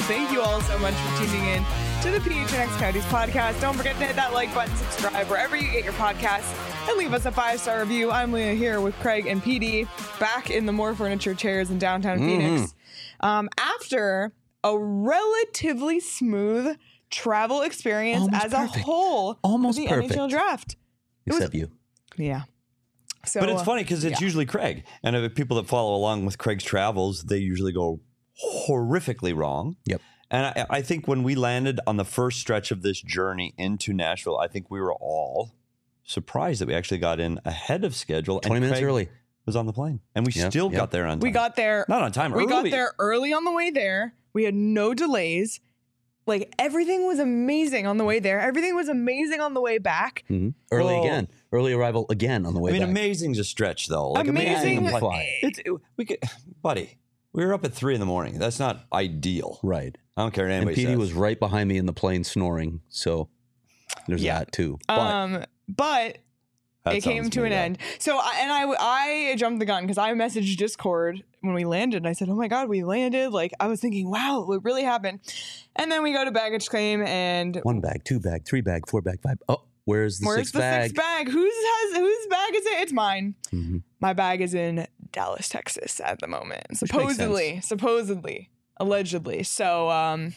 Thank you all so much for tuning in to the PHNX Coyotes podcast. Don't forget to hit that like button, subscribe wherever you get your podcasts, and leave us a 5-star review. I'm Leah here with Craig and PD, back in the More Furniture chairs in downtown Phoenix. After a relatively smooth travel experience Almost as perfect. a whole, Almost the perfect. NHL draft. Except you. Yeah. So, But it's funny because it's usually Craig. And if people that follow along with Craig's travels, they usually go horrifically wrong. Yep. And I think when we landed on the first stretch of this journey into Nashville, I think we were all surprised that we actually got in ahead of schedule. 20 and minutes Craig early. was on the plane. And we still got there on time. we got there. Not on time, We got early. there early on the way there. We had no delays. Like, everything was amazing on the way there. Everything was amazing on the way back. Early Well- again. Early arrival again on the way I mean, back. amazing's a stretch, though. Like, Amazing. amazing. Fly. We could, buddy, we were up at 3 a.m. That's not ideal. Right. I don't care what And anybody PD says. was right behind me in the plane snoring. So there's that too. But But That it came sounds to an made up. end. So I jumped the gun because I messaged Discord when we landed. And I said, "Oh my God, we landed!" Like, I was thinking, "Wow, it really happened." And then we go to baggage claim, and 1 bag, 2 bag, 3 bag, 4 bag, 5. Oh, where's the where's sixth the bag? sixth bag? Whose bag is it? It's mine. Mhm. My bag is in Dallas, Texas at the moment. Which makes Supposedly, allegedly. So,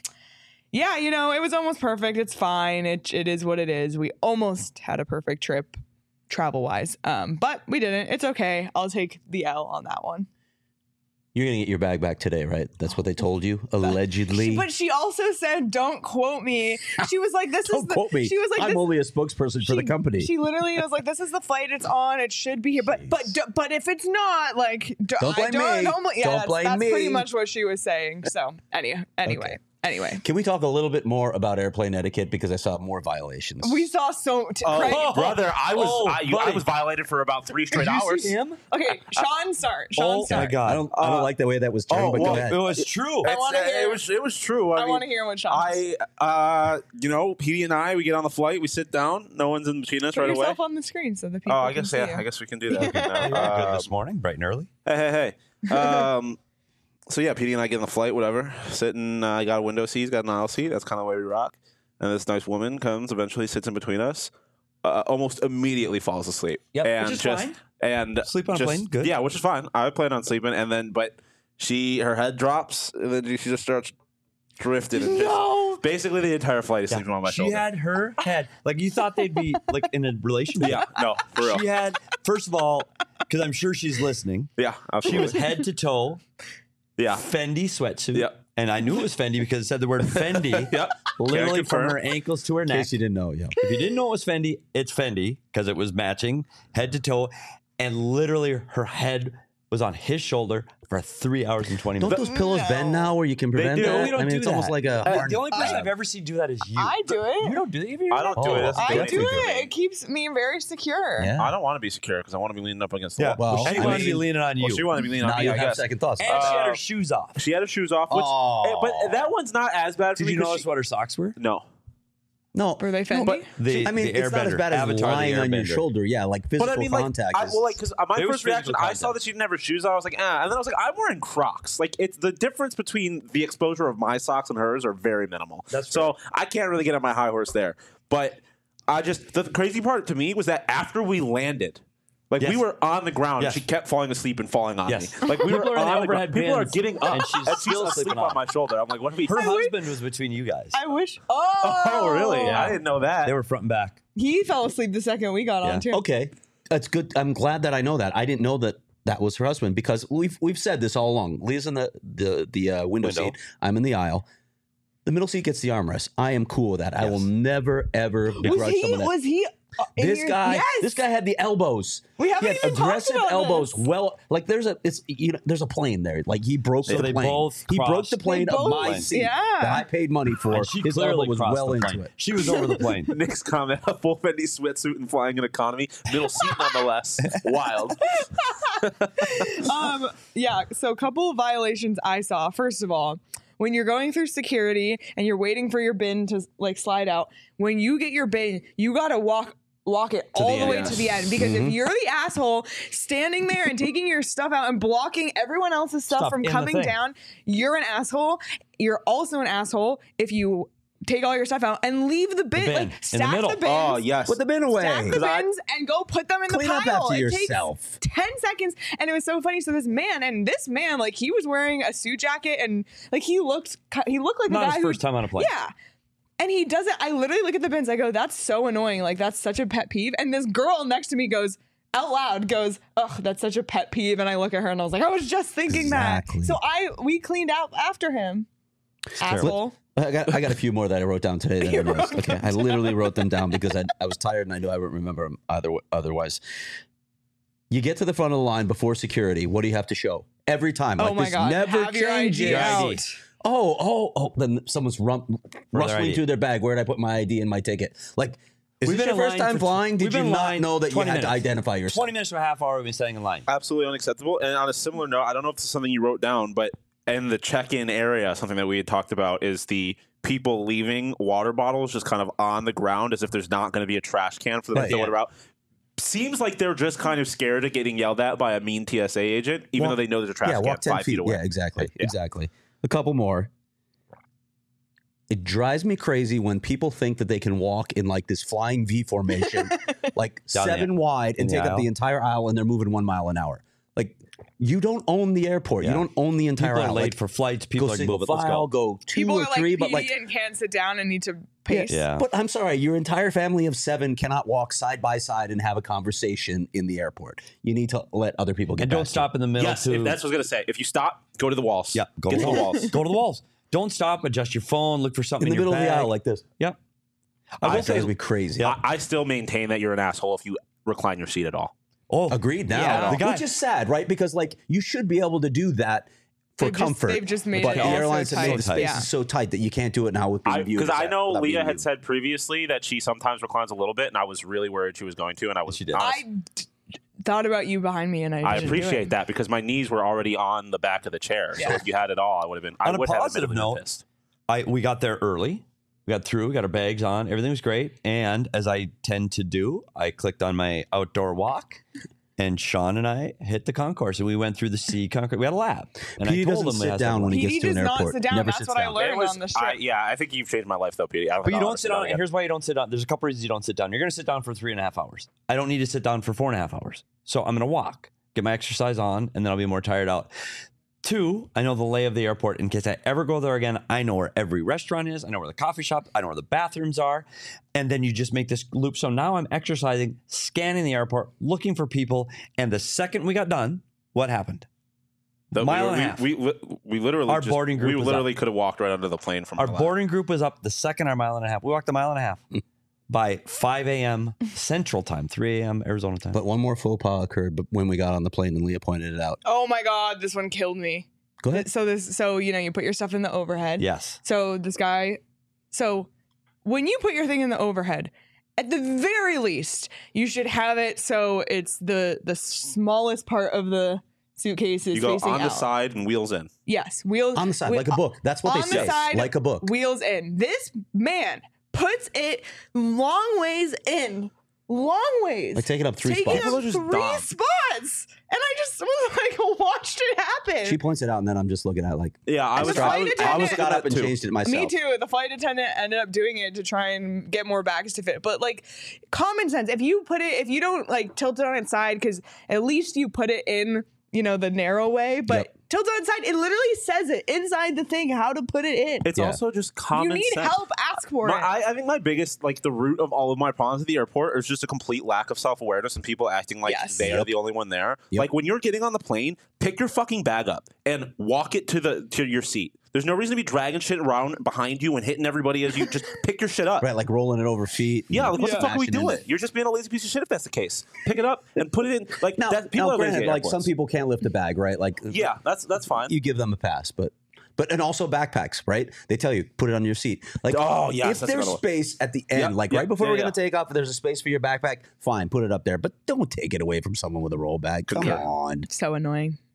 yeah, it was almost perfect. It's fine. It is what it is. We almost had a perfect trip travel wise. But we didn't. It's okay. I'll take the L on that one. You're going to get your bag back today, right? That's what they told you, allegedly. But she also said, "Don't quote me." She was like, "This is Don't the." quote me. She was like, I'm this, only a spokesperson for the company. She literally was like, "This is the flight it's on. It should be here." But if it's not, like, Don't blame me. Don't blame that's me. pretty much what she was saying. So anyway. Can we talk a little bit more about airplane etiquette because I saw more violations? We saw Craig. Brother, I buddy. was violated for about 3 straight hours. him? Okay, Sean start. Oh my God. I don't like the way that was turned, but go ahead. It was true. I wanna hear- It was true. I mean, want to hear what Sean. Petey and I, we get on the flight, we sit down, no one's in between us Put right away. yourself on the screen so the people. Oh, I can guess see you. I guess we can do that. You were good this morning, bright and early. Hey. So yeah, Petey and I get on the flight, whatever. Sitting, I got a window seat, he's got an aisle seat. That's kind of the way we rock. And this nice woman comes, eventually sits in between us, almost immediately falls asleep. Yep, and which is fine. And Sleep on a plane, good. Yeah, which is fine. I plan on sleeping, and then but her head drops, and then she just starts drifting. And just, basically, the entire flight is sleeping on my She shoulder. had her head. Like, you thought they'd be, like, in a relationship. Yeah, no, for real. She had, first of all, because I'm sure she's listening, Yeah, she absolutely. was head to toe Yeah, Fendi sweatsuit. Yep. And I knew it was Fendi because it said the word Fendi. Yep. Literally Can from confirm. her ankles to her In neck. case you didn't know, yeah. If you didn't know it was Fendi, it's Fendi because it was matching head to toe. And literally her head was on his shoulder for 3 hours and 20 Don't minutes. those pillows bend now where you can prevent do. that? We don't I mean, do it's almost that. like a... The only person I've ever seen do that is you. I do it. You don't do that? I don't do it. That's I do anything to it. me. It keeps me very secure. Yeah. I don't want to be secure because I want to be leaning up against the Yeah. wall. Well, She I wanted to be mean, leaning on you. Well, she wanted to be leaning now on me, you I have guess. second thoughts. And she had her shoes off. She had her shoes off, which, Oh. but that one's not as bad for Did me. you 'cause notice what her socks were? No. No. Were they Fendi? but The, I mean, the it's not as Airbender, bad as Avatar, the lying on your Airbender. shoulder. Yeah, like physical But I mean, contact. my is- first was reaction, physical I saw contact. that she didn't have her shoes on. I was like, ah. And then I was like, I'm wearing Crocs. Like, it's the difference between the exposure of my socks and hers are very minimal. That's so I can't really get on my high horse there. But the crazy part to me was that after we landed, like Yes. we were on the ground, Yes. and she kept falling asleep and falling on Yes. me. Like we People were are in the on the overhead ground. People are bins, getting up, and she's still asleep sleeping on on. my shoulder. I'm like, what are we? Her husband was between you guys. I wish. Oh, really? Yeah. I didn't know that. They were front and back. He fell asleep the second we got Yeah. on too. Okay, that's good. I'm glad that I know that. I didn't know that was her husband because we've said this all along. Leah's in the window seat. I'm in the aisle. The middle seat gets the armrest. I am cool with that. I will never ever begrudge someone that. Was he? in This your- guy, Yes. this guy had the elbows. We haven't he had even talked aggressive about elbows. this. Well, like there's a plane there. Like he broke So the they plane. both He broke crossed. the plane They of my both- seat yeah. that I paid money for. And she His elbow clearly was crossed well the into plane. it. She was over the plane. Nick's comment: a full Fendi sweatsuit and flying in economy, middle seat nonetheless. Wild. Yeah, so a couple of violations I saw. First of all, when you're going through security and you're waiting for your bin to like slide out, when you get your bin, you got to walk walk it all the end, way yes. to the end, because if you're the asshole standing there and taking your stuff out and blocking everyone else's stuff from in the coming thing. down, you're an asshole. You're also an asshole if you take all your stuff out and leave the bin, bin like in the stack middle. the bins. Oh, yes. Put the bin away. Stack the bins and go put them in Clean the up pile. after It yourself. takes 10 seconds. And it was so funny. So this man, like he was wearing a suit jacket and like he looked like a Not guy his first time on a plane. Yeah. And he doesn't, I literally look at the bins. I go, that's so annoying. Like that's such a pet peeve. And this girl next to me goes, out loud goes, ugh, that's such a pet peeve. And I look at her and I was like, I was just thinking Exactly. that. So we cleaned out after him. Asshole. I got a few more that I wrote down today that I missed. Okay, I literally wrote them down because I was tired and I knew I wouldn't remember them otherwise. You get to the front of the line before security. What do you have to show? Every time. Oh Like my this God. never Have your changes. ID out. Oh. Then someone's rustling ID. through their bag. Where did I put my ID and my ticket? Like, is We've this been your in first line time for- flying? Did we've you been in not line know that you 20 had to minutes. identify yourself? 20 minutes to a half hour we've been standing in line. Absolutely unacceptable. And on a similar note, I don't know if this is something you wrote down, but in the check-in area, something that we had talked about is the people leaving water bottles just kind of on the ground as if there's not going to be a trash can for them to throw yeah. water out. Seems like they're just kind of scared of getting yelled at by a mean TSA agent, even though they know there's a trash Yeah, can walk 10 5 feet away. Yeah, exactly. Yeah. Exactly. A couple more. It drives me crazy when people think that they can walk in like this flying V formation, like Down the- 7 wide and in the take up the aisle. entire aisle and they're moving 1 mile an hour. Like, you don't own the airport. Yeah. You don't own the entire People are aisle. late Like, for flights. go People are single moving. Let's file, go. go 2 People or are 3, like but PD like, and can't sit down and need to pace. Yeah. but I'm sorry, your entire family of 7 cannot walk side by side and have a conversation in the airport. You need to let other people get And don't past you. stop in the middle. Yes, to, if that's what I was going to say. If you stop, go to the walls. Yeah, go Get to the walls. Go to the walls. Don't stop. Adjust your phone. Look for something in the your middle of the bag. aisle like this. Yep. I will will say- drives me crazy. Yeah. I still maintain that you're an asshole if you recline your seat at all. Oh, Agreed now. Yeah. The guy- Which is sad, right? Because like you should be able to do that for comfort. They've just made but it the all airlines so have made tight. the space Yeah. is so tight that you can't do it now with being viewed. Because I know without Leah being had viewed. said previously that she sometimes reclines a little bit, and I was really worried she was going to, and I was She did. honest. I thought about you behind me and I I didn't do appreciate it. that because my knees were already on the back of the chair. So Yeah. if you had it all, I would have been. I On a would have positive admittedly been note, pissed. we got there early. We got through. We got our bags on. Everything was great. And as I tend to do, I clicked on my outdoor walk, and Sean and I hit the concourse, and we went through the sea concourse. We had a lap. And He I told doesn't him sit has down to- when he PD gets to does an not airport. sit down. Never That's sits what I down. learned on the trip. Yeah, I think you've changed my life though, Petey. I don't But you know how don't to sit down down. again. Here's why you don't sit down. There's a couple reasons you don't sit down. You're going to sit down for 3.5 hours. I don't need to sit down for 4.5 hours. So I'm going to walk, get my exercise on, and then I'll be more tired out. 2, I know the lay of the airport in case I ever go there again. I know where every restaurant is. I know where the coffee shop. I know where the bathrooms are. And then you just make this loop. So now I'm exercising, scanning the airport, looking for people. And the second we got done, what happened? Mile and a half. We literally Our boarding group We was literally could have walked right under the plane from Our our lap. boarding group was up the second our mile and a half. We walked a mile and a half by 5 a.m. Central Time, 3 a.m. Arizona time. But one more faux pas occurred when we got on the plane and Leah pointed it out. Oh my God, this one killed me. Go ahead. So you know, you put your stuff in the overhead. Yes. So when you put your thing in the overhead, at the very least, you should have it so it's the smallest part of the suitcase is You go facing on the out. side and wheels in. Yes, wheels On the side, like a book. That's what on they say. the side, Like a book. wheels in. This man puts it long ways in. Long ways. Like taking up 3 Taking spots. up Those are just 3 dumb. spots. And I just was like, watched it happen. She points it out, and then I'm just looking at it like, Yeah, I As a was. flight I was attendant- got got up and changed it myself. Me too. The flight attendant ended up doing it to try and get more bags to fit. But like common sense, if you don't like tilt it on its side, because at least you put it in, you know, the narrow way, but Yep. tilt it on its side, it literally says it inside the thing how to put it in. It's Yeah. also just If common you need sense. help, ask for it. I think my biggest, like the root of all of my problems at the airport is just a complete lack of self-awareness and people acting like Yes. they are Yep. the only one there. Yep. Like when you're getting on the plane, pick your fucking bag up and walk it to your seat. There's no reason to be dragging shit around behind you and hitting everybody as you just pick your shit up. right, like rolling it over feet. Yeah, like what the fuck are we smashing doing? into- You're just being a lazy piece of shit if that's the case. Pick it up and put it in. Like Now, people are lazy granted, at like some airports. people can't lift a bag, right? Like, Yeah, that's fine. you give them a pass, but and also backpacks, right? They tell you put it on your seat. Like, Oh, yes, if that's there's another one. space at the end, Yep, like yep, right before yeah, we're gonna yeah. take off, if there's a space for your backpack, fine, put it up there. But don't take it away from someone with a roll bag. Come Yeah. on. So annoying.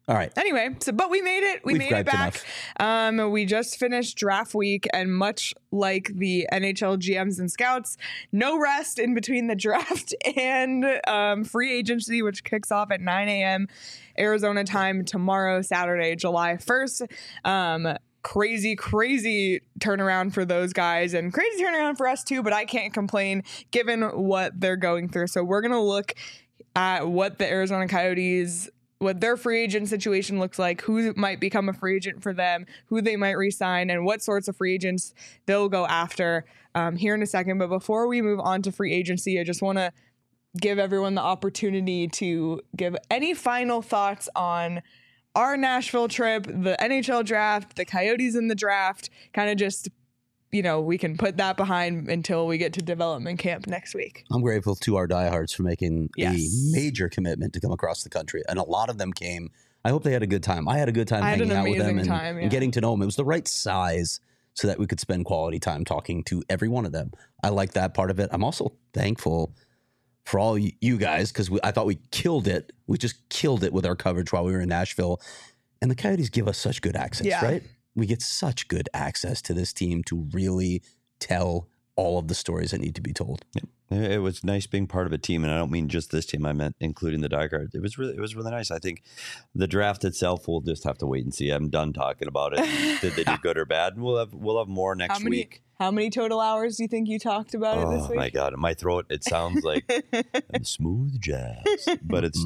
All right. Anyway, but we made it. We We've made it griped back. We just finished draft week, and much like the NHL GMs and scouts, no rest in between the draft and free agency, which kicks off at 9 a.m. Arizona time tomorrow, Saturday, July 1st. Crazy turnaround for those guys and crazy turnaround for us too, but I can't complain given what they're going through. So we're going to look at what the Arizona Coyotes, what their free agent situation looks like, who might become a free agent for them, who they might re-sign, and what sorts of free agents they'll go after here in a second. But before we move on to free agency, I just want to give everyone the opportunity to give any final thoughts on our Nashville trip, the NHL draft, the Coyotes in the draft, kind of just, we can put that behind until we get to development camp next week. I'm grateful to our diehards for making Yes. a major commitment to come across the country. And a lot of them came. I hope they had a good time. I had a good time hanging out with them and getting to know them. It was the right size so that we could spend quality time talking to every one of them. I like that part of it. I'm also thankful for all you guys, because I thought we killed it. We just killed it with our coverage while we were in Nashville. And the Coyotes give us such good access, right? We get such good access to this team to really tell all of the stories that need to be told. It was nice being part of a team, and I don't mean just this team. I meant including the diehards. It was really nice. I think the draft itself, we'll just have to wait and see. I'm done talking about it. Did they do good or bad? And we'll have more next week. How many total hours do you think you talked about it this week? Oh my God, in my throat it sounds like smooth jazz, but it's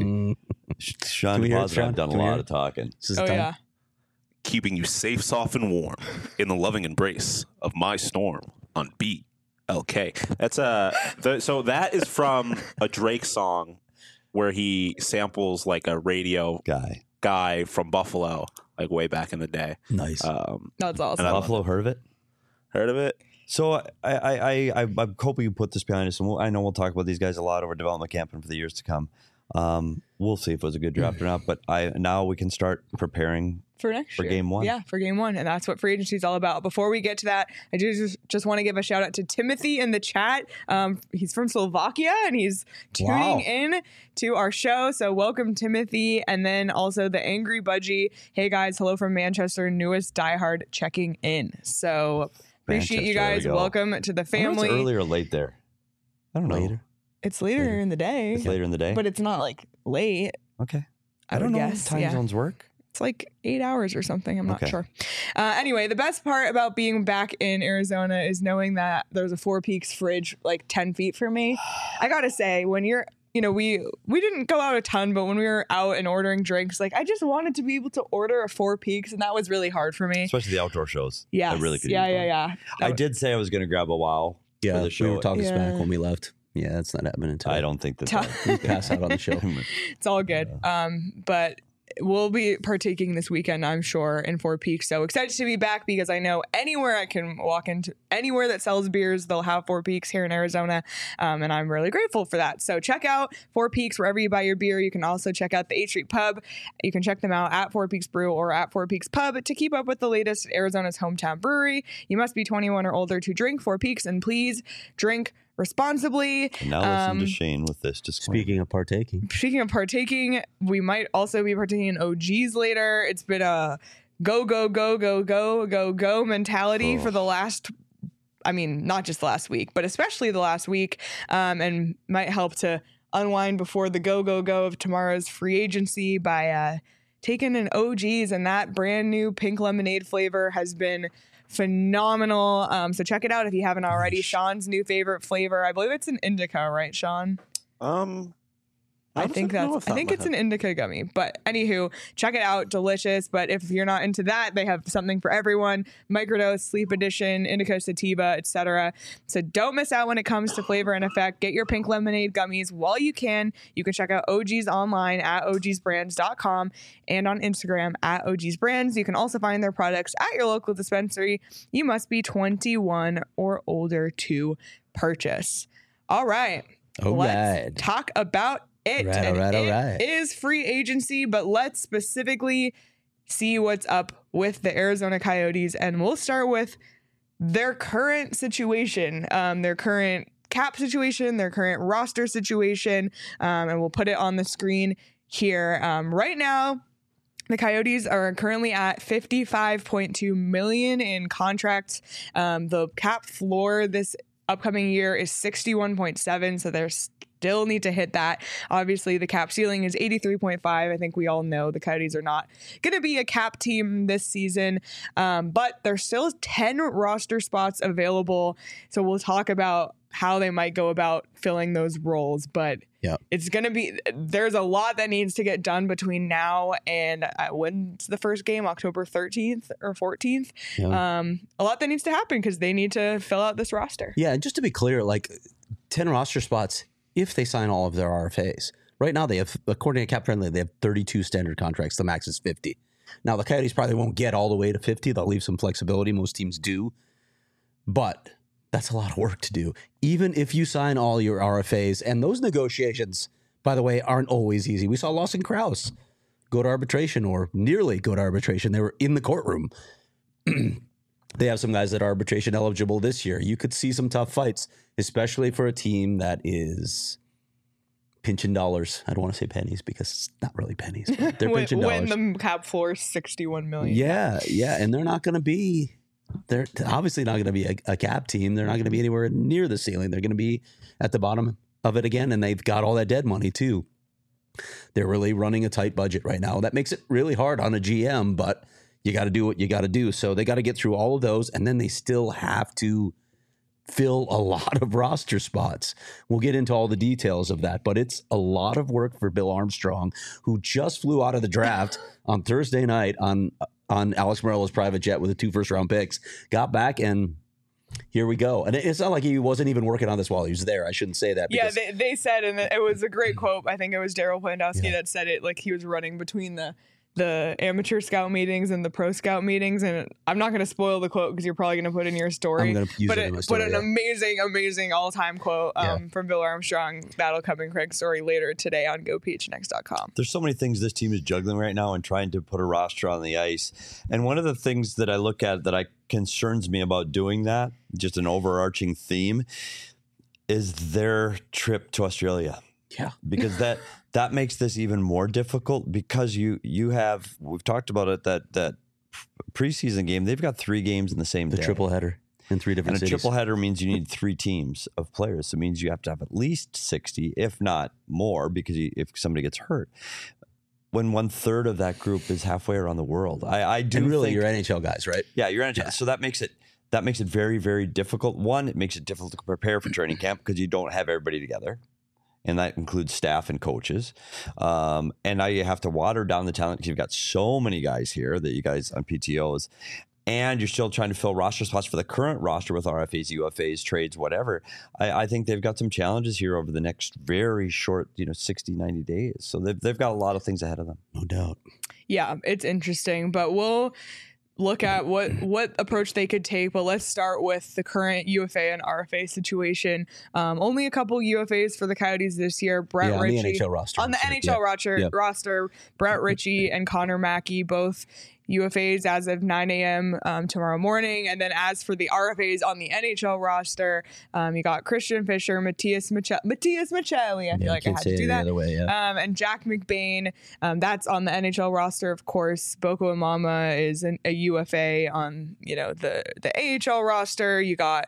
Sean and Positive have done a lot of talking. Yeah. Keeping you safe, soft, and warm in the loving embrace of my storm on BLK. That's so that is from a Drake song where he samples like a radio guy from Buffalo, like way back in the day. Nice. That's awesome. Buffalo, heard of it? Heard of it? So I'm hoping you put this behind us, and I know we'll talk about these guys a lot over development camp and for the years to come. We'll see if it was a good draft or not, but now we can start preparing for next year. Game 1. Yeah, for game 1. And that's what free agency is all about. Before we get to that, I just want to give a shout out to Timothy in the chat. He's from Slovakia and he's tuning in to our show. So welcome, Timothy. And then also the Angry Budgie. Hey guys, hello from Manchester, newest diehard checking in. So appreciate you guys. Welcome to the family. It's early or late there? I don't know. Later. It's later in the day. It's later in the day? But it's not like late. Okay. I don't know guess. how time zones work. It's like 8 hours or something. I'm not sure. Anyway, the best part about being back in Arizona is knowing that there's a Four Peaks fridge like 10 feet from me. I got to say, when you're, we didn't go out a ton, but when we were out and ordering drinks, like I just wanted to be able to order a Four Peaks, and that was really hard for me. Especially the outdoor shows. Yeah. I really could. Yeah. I did say I was going to grab a WOW for the show. We were talking smack when we left. Yeah, that's not happening until I don't think we pass out on the show. It's all good. But we'll be partaking this weekend, I'm sure, in Four Peaks. So excited to be back because I know anywhere I can walk into, anywhere that sells beers, they'll have Four Peaks here in Arizona. And I'm really grateful for that. So check out Four Peaks wherever you buy your beer. You can also check out the 8th Street Pub. You can check them out at Four Peaks Brew or at Four Peaks Pub to keep up with the latest at Arizona's hometown brewery. You must be 21 or older to drink Four Peaks, and please drink responsibly. Now listen to Shane with this disclaimer. Speaking of partaking, we might also be partaking in OGs later. It's been a go mentality for the last, not just the last week, but especially the last week, and might help to unwind before the go of tomorrow's free agency by taking an OGs, and that brand new pink lemonade flavor has been phenomenal. So check it out if you haven't already. Sean's new favorite flavor. I believe it's an indica, right, Sean? I think it's an indica gummy. But anywho, check it out. Delicious. But if you're not into that, they have something for everyone. Microdose, Sleep Edition, Indica Sativa, etc. So don't miss out when it comes to flavor and effect. Get your pink lemonade gummies while you can. You can check out OGs online at ogsbrands.com and on Instagram at ogsbrands. You can also find their products at your local dispensary. You must be 21 or older to purchase. All right. Let's talk about it. All right. It is free agency, but let's specifically see what's up with the Arizona Coyotes. And we'll start with their current situation, their current cap situation, their current roster situation. And we'll put it on the screen here. Right now, The Coyotes are currently at $55.2 million in contracts. The cap floor this upcoming year is 61.7, so they're still need to hit that. Obviously, the cap ceiling is 83.5. I think we all know the Coyotes are not going to be a cap team this season, but there's still 10 roster spots available. So we'll talk about how they might go about filling those roles, but it's going to be, there's a lot that needs to get done between now and when's the first game, October 13th or 14th. A lot that needs to happen because they need to fill out this roster. Yeah, and just to be clear, like 10 roster spots if they sign all of their RFAs. Right now they have, according to Cap Friendly, they have 32 standard contracts. The max is 50. Now the Coyotes probably won't get all the way to 50. They'll leave some flexibility. Most teams do. But that's a lot of work to do. Even if you sign all your RFAs, and those negotiations, by the way, aren't always easy. We saw Lawson Krause go to arbitration or nearly go to arbitration. They were in the courtroom. They have some guys that are arbitration eligible this year. You could see some tough fights, especially for a team that is pinching dollars. I don't want to say pennies because it's not really pennies. But they're pinching dollars. When the cap floor is $61 million. Yeah. And they're not going to be... They're obviously not going to be a cap team. They're not going to be anywhere near the ceiling. They're going to be at the bottom of it again, and they've got all that dead money too. They're really running a tight budget right now. That makes it really hard on a GM, but you got to do what you got to do. So they got to get through all of those, and then they still have to fill a lot of roster spots. We'll get into all the details of that, but it's a lot of work for Bill Armstrong, who just flew out of the draft on Thursday night on Alex Morello's private jet with the 2 first-round picks, got back, and here we go. And it's not like he wasn't even working on this while he was there. I shouldn't say that. Yeah, they said, and it was a great quote. I think it was Daryl Plandowski that said it, like he was running between the amateur scout meetings and the pro scout meetings. And I'm not going to spoil the quote because you're probably going to put in your story. I'm going to use it in my story. But an amazing all-time quote from Bill Armstrong. That'll come in Craig's story later today on GoPHNX.com. There's so many things this team is juggling right now and trying to put a roster on the ice. And one of the things that I look at that concerns me about doing that, just an overarching theme, is their trip to Australia. Yeah. Because that makes this even more difficult because you have, we've talked about it, that preseason game, they've got 3 games in the same day. The triple header in 3 different cities. And a triple header means you need 3 teams of players. So it means you have to have at least 60, if not more, because if somebody gets hurt. When 1/3 of that group is halfway around the world. I do and really think, your NHL guys, right? Yeah, your NHL. Yeah. So that makes it very, very difficult. One, it makes it difficult to prepare for training camp because you don't have everybody together. And that includes staff and coaches. And now you have to water down the talent because you've got so many guys here that you guys on PTOs. And you're still trying to fill roster spots for the current roster with RFAs, UFAs, trades, whatever. I think they've got some challenges here over the next very short, 60, 90 days. So they've got a lot of things ahead of them. No doubt. Yeah, it's interesting. But we'll look at what approach they could take, but let's start with the current UFA and RFA situation. Only a couple UFAs for the Coyotes this year. Brett Ritchie on the NHL roster. On the NHL roster, Brett Ritchie and Connor Mackey, both UFAs as of 9 a.m. Tomorrow morning. And then as for the RFAs on the NHL roster, you got Christian Fischer, Matthias Maccelli. I feel like I had to do that. And Jack McBain. That's on the NHL roster, of course. Boko Imama is a UFA on the AHL roster. You got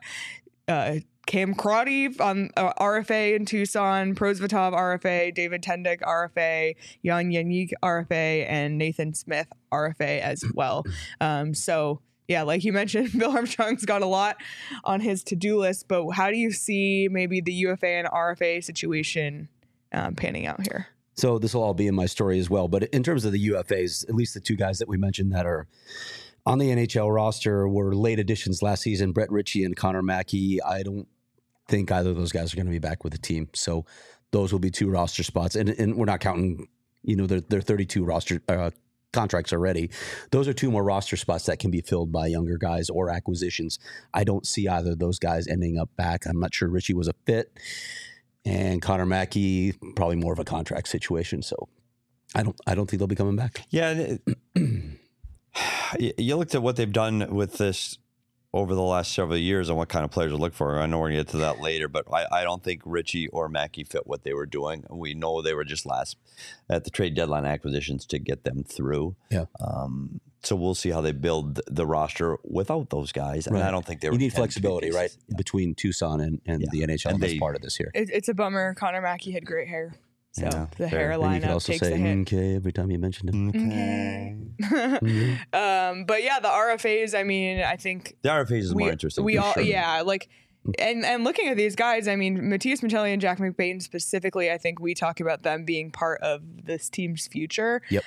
Cam Crotty on RFA in Tucson, Prosvetov RFA, David Tendick RFA, Jan Yannick RFA, and Nathan Smith RFA as well. So yeah, like you mentioned, Bill Armstrong's got a lot on his to-do list, but how do you see maybe the UFA and RFA situation panning out here? So this will all be in my story as well, but in terms of the UFAs, at least the 2 guys that we mentioned that are on the NHL roster were late additions last season, Brett Ritchie and Connor Mackey. I don't think either of those guys are going to be back with the team. So those will be 2 roster spots. And we're not counting, their 32 roster contracts already. Those are 2 more roster spots that can be filled by younger guys or acquisitions. I don't see either of those guys ending up back. I'm not sure Ritchie was a fit. And Connor Mackey, probably more of a contract situation. So I don't think they'll be coming back. Yeah. You looked at what they've done with this over the last several years on what kind of players to look for. I know we're going to get to that later, but I don't think Richie or Mackey fit what they were doing. We know they were just last at the trade deadline acquisitions to get them through. Yeah. So we'll see how they build the roster without those guys. And I don't think they were. You need flexibility, right? Yeah. Between Tucson and the NHL as part of this year. It's a bummer. Connor Mackey had great hair. So the hairline you could also takes say the hit. okay every time you mentioned it. Okay. But yeah, the RFAs, I mean, I think the RFAs is more interesting. And looking at these guys, I mean, Matias Maccelli and Jack McBain specifically, I think we talk about them being part of this team's future. Yep.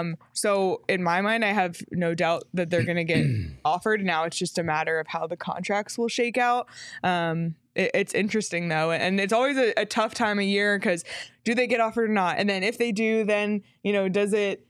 So in my mind, I have no doubt that they're going to get offered. Now it's just a matter of how the contracts will shake out. It's interesting though, and it's always a tough time of year because do they get offered or not? And then if they do, then does it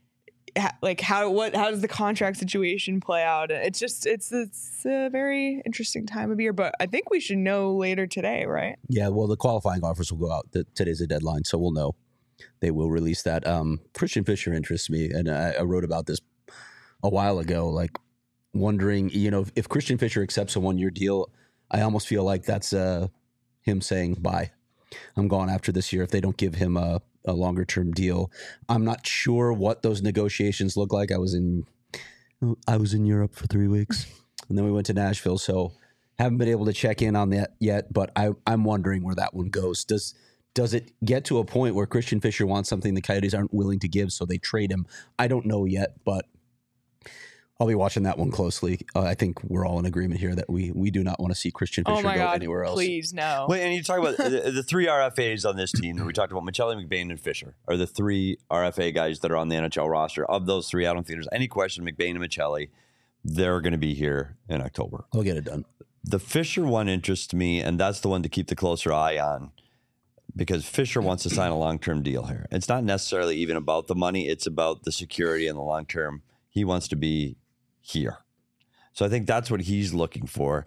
how does the contract situation play out? It's a very interesting time of year, but I think we should know later today, right? Yeah, well, the qualifying offers will go out. Today's the deadline, so we'll know. They will release that. Christian Fischer interests me, and I wrote about this a while ago, like wondering, if Christian Fischer accepts a 1-year deal, I almost feel like that's him saying, bye, I'm gone after this year if they don't give him a longer term deal. I'm not sure what those negotiations look like. I was in Europe for 3 weeks and then we went to Nashville. So haven't been able to check in on that yet, but I'm wondering where that one goes. Does it get to a point where Christian Fischer wants something the Coyotes aren't willing to give, so they trade him? I don't know yet, but I'll be watching that one closely. I think we're all in agreement here that we do not want to see Christian Fischer go anywhere else. Please, no. Well, and you talk about the 3 RFAs on this team that we talked about, Maccelli, McBain, and Fischer are the 3 RFA guys that are on the NHL roster. Of those 3, I don't think there's any question McBain and Maccelli, they're going to be here in October. They'll get it done. The Fischer one interests me, and that's the one to keep the closer eye on because Fischer wants to sign a long-term deal here. It's not necessarily even about the money. It's about the security and the long-term. He wants to be here. So I think that's what he's looking for.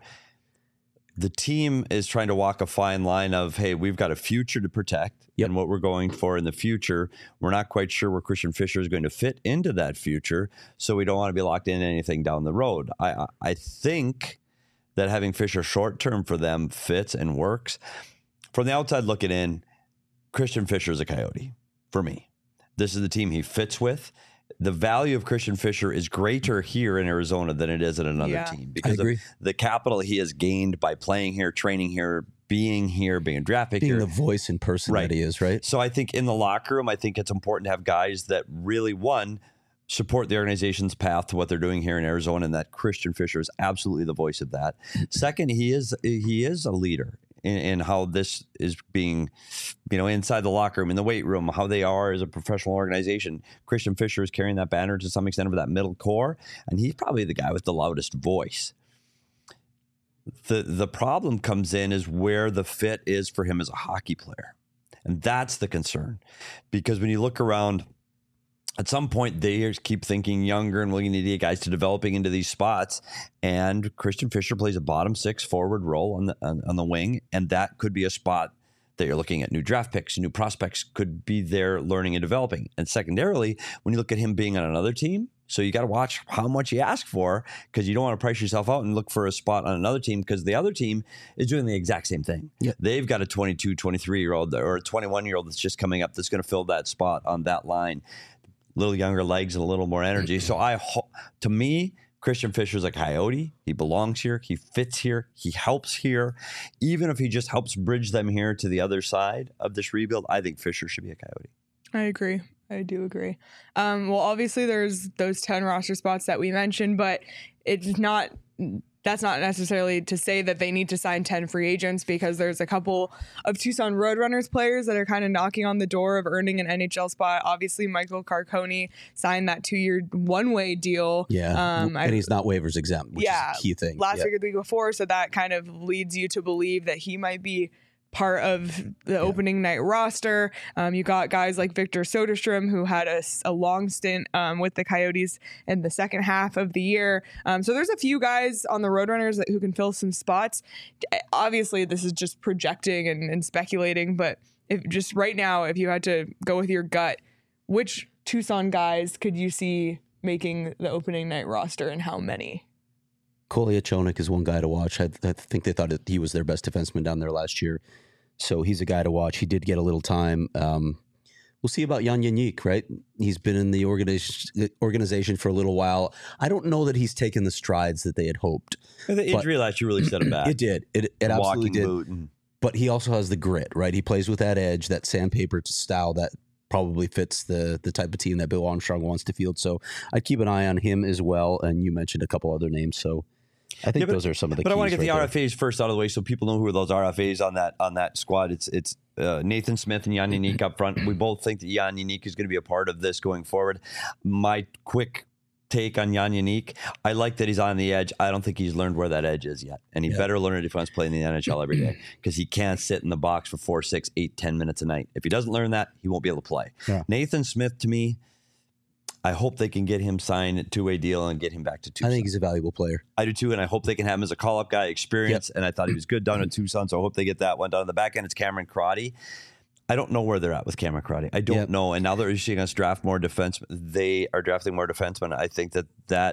The team is trying to walk a fine line of, hey, we've got a future to protect and what we're going for in the future. We're not quite sure where Christian Fischer is going to fit into that future, so we don't want to be locked in anything down the road. I think that having Fischer short-term for them fits and works. From the outside looking in, Christian Fischer is a Coyote for me. This is the team he fits with. The value of Christian Fischer is greater here in Arizona than it is at another team because of the capital he has gained by playing here, training here, being a draft pick being here. The voice and person that he is, right? So I think in the locker room, I think it's important to have guys that really, one, support the organization's path to what they're doing here in Arizona, and that Christian Fischer is absolutely the voice of that. Second, he is a leader in how this is being, inside the locker room, in the weight room, how they are as a professional organization. Christian Fischer is carrying that banner to some extent over that middle core, and he's probably the guy with the loudest voice. The problem comes in is where the fit is for him as a hockey player. And that's the concern. Because when you look around, at some point, they keep thinking younger and willing to get guys to developing into these spots. And Christian Fischer plays a bottom 6 forward role on the wing. And that could be a spot that you're looking at. New draft picks, new prospects could be there learning and developing. And secondarily, when you look at him being on another team, so you got to watch how much you ask for because you don't want to price yourself out and look for a spot on another team because the other team is doing the exact same thing. Yeah. They've got a 22, 23-year-old or a 21-year-old that's just coming up that's going to fill that spot on that line. Little younger legs and a little more energy. So to me, Christian Fischer's a Coyote. He belongs here. He fits here. He helps here. Even if he just helps bridge them here to the other side of this rebuild, I think Fischer should be a Coyote. I agree. I do agree. Well, obviously there's those 10 roster spots that we mentioned, but that's not necessarily to say that they need to sign 10 free agents because there's a couple of Tucson Roadrunners players that are kind of knocking on the door of earning an NHL spot. Obviously, Michael Carcone signed that 2-year one-way deal. Yeah, and he's not waivers exempt, which is a key thing. Last week or the week before, so that kind of leads you to believe that he might be part of the opening night roster. You got guys like Victor Soderstrom, who had a long stint with the Coyotes in the second half of the year. So there's a few guys on the Roadrunners who can fill some spots. Obviously, this is just projecting and speculating, but just right now, if you had to go with your gut, which Tucson guys could you see making the opening night roster and how many? Kolyachonok is one guy to watch. I think they thought he was their best defenseman down there last year. So he's a guy to watch. He did get a little time. We'll see about Jan Jeník, right? He's been in the organization for a little while. I don't know that he's taken the strides that they had hoped. The injury last year really set him back. It did. It absolutely did. Boot and... But he also has the grit, right? He plays with that edge, that sandpaper style that probably fits the type of team that Bill Armstrong wants to field. So I'd keep an eye on him as well. And you mentioned a couple other names, so I think those are some of the. But keys I want to get right the RFAs first out of the way, so people know who are those RFAs on that squad. It's Nathan Smith and Jan Jeník up front. We both think that Jan Jeník is going to be a part of this going forward. My quick take on Jan Jeník, I like that he's on the edge. I don't think he's learned where that edge is yet, and he better learn it if he wants to play in the NHL every day, because he can't sit in the box for 4, 6, 8, 10 minutes a night. If he doesn't learn that, he won't be able to play. Yeah. Nathan Smith, to me, I hope they can get him signed a 2-way deal and get him back to Tucson. I think he's a valuable player. I do too, and I hope they can have him as a call-up guy, experience, and I thought he was good down in Tucson, so I hope they get that one done. On the back end, it's Cameron Crotty. I don't know where they're at with Cameron Crotty. I don't know. And now they're seeing us draft more defensemen. They are drafting more defensemen. I think that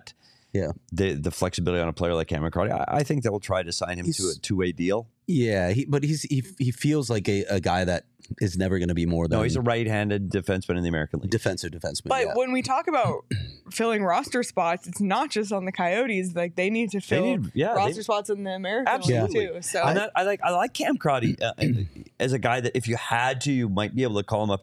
the flexibility on a player like Cameron Crotty, I think they will try to sign him to a 2-way deal. Yeah, but he feels like a guy that is never going to be more than... No, he's a right-handed defenseman in the American League. Defensive defenseman, But when we talk about filling roster spots, it's not just on the Coyotes. Like, they need to fill roster spots in the American League too. So I like Cam Crotty as a guy that if you had to, you might be able to call him up.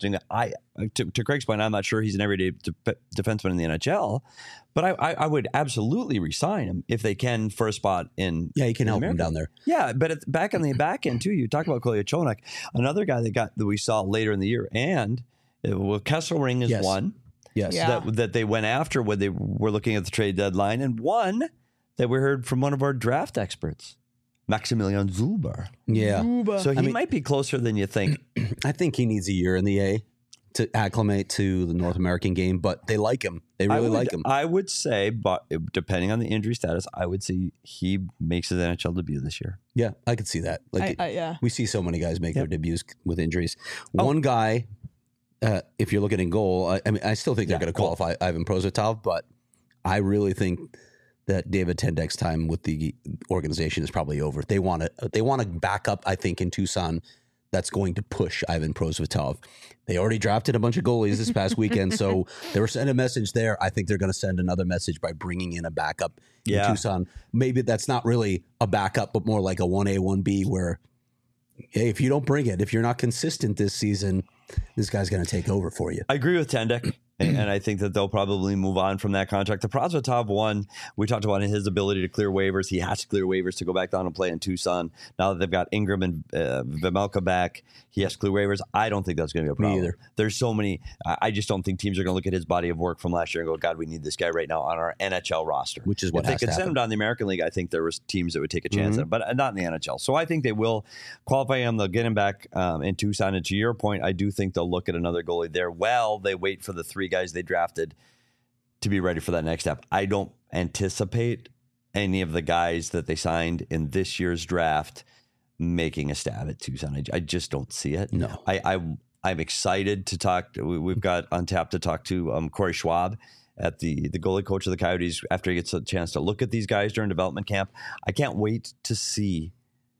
To Craig's point, I'm not sure he's an everyday defenseman in the NHL, but I would absolutely re-sign him if they can for a spot in. Yeah, he can help him down there. Yeah, but back on the back end too, you talk about Kolyachonok, another guy that we saw later in the year, and Kesselring is one. Yes, that they went after when they were looking at the trade deadline, and one that we heard from one of our draft experts, Maximilian Zuber. Yeah, so he might be closer than you think. I think he needs a year in the A to acclimate to the North American game, but they like him. They really like him. I would say, but depending on the injury status, I would say he makes his NHL debut this year. Yeah, I could see that. We see so many guys make their debuts with injuries. One guy, if you're looking in goal, I still think they're going to qualify Ivan Prosvetov, but I really think that David Tendek's time with the organization is probably over. They want to back up, I think, in Tucson. That's going to push Ivan Prosvetov. They already drafted a bunch of goalies this past weekend, so they were sending a message there. I think they're going to send another message by bringing in a backup in Tucson. Maybe that's not really a backup, but more like a 1A, 1B where, hey, if you don't bring it, if you're not consistent this season, this guy's going to take over for you. I agree with Tendek. And I think that they'll probably move on from that contract. The Prosvetov one, we talked about his ability to clear waivers. He has to clear waivers to go back down and play in Tucson. Now that they've got Ingram and Vejmelka back, he has to clear waivers. I don't think that's going to be a problem. Me either. There's so many. I just don't think teams are going to look at his body of work from last year and go, God, we need this guy right now on our NHL roster. Which is what if they could send him down the American League, I think there was teams that would take a chance at him, but not in the NHL. So I think they will qualify him. They'll get him back in Tucson. And to your point, I do think they'll look at another goalie there. Well, they wait for the 3 guys they drafted to be ready for that next step. I don't anticipate any of the guys that they signed in this year's draft making a stab at Tucson. I just don't see it. No. I'm excited to talk. We've got on tap to talk to Corey Schwab at the goalie coach of the Coyotes after he gets a chance to look at these guys during development camp. I can't wait to see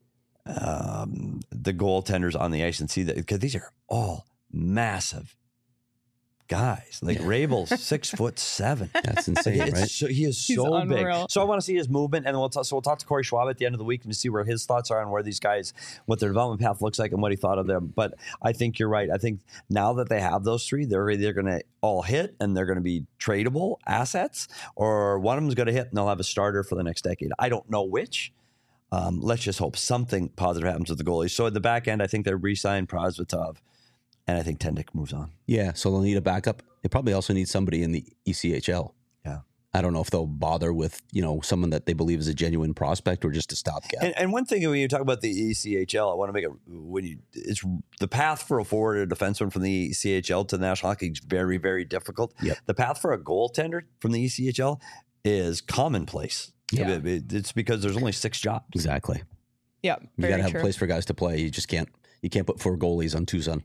the goaltenders on the ice and see that, because these are all massive guys. Like Rabel's 6'7". That's insane, right? He's so big. So I want to see his movement, and we'll talk to Corey Schwab at the end of the week and see where his thoughts are on where these guys, what their development path looks like, and what he thought of them. But I think you're right. I think now that they have those 3, they're either going to all hit and they're going to be tradable assets, or one of them's going to hit and they'll have a starter for the next decade. I don't know which. Let's just hope something positive happens with the goalies. So at the back end, I think they re-signed Prosvetov. And I think Tendek moves on. Yeah, so they'll need a backup. They probably also need somebody in the ECHL. Yeah. I don't know if they'll bother with, someone that they believe is a genuine prospect or just a stopgap. And one thing when you talk about the ECHL, I want to make it, it's the path for a forward or defenseman from the ECHL to the National Hockey League is very, very difficult. Yep. The path for a goaltender from the ECHL is commonplace. Yeah. It's because there's only 6 jobs. Exactly. Yeah. You got to have a place for guys to play. You just can't put 4 goalies on Tucson.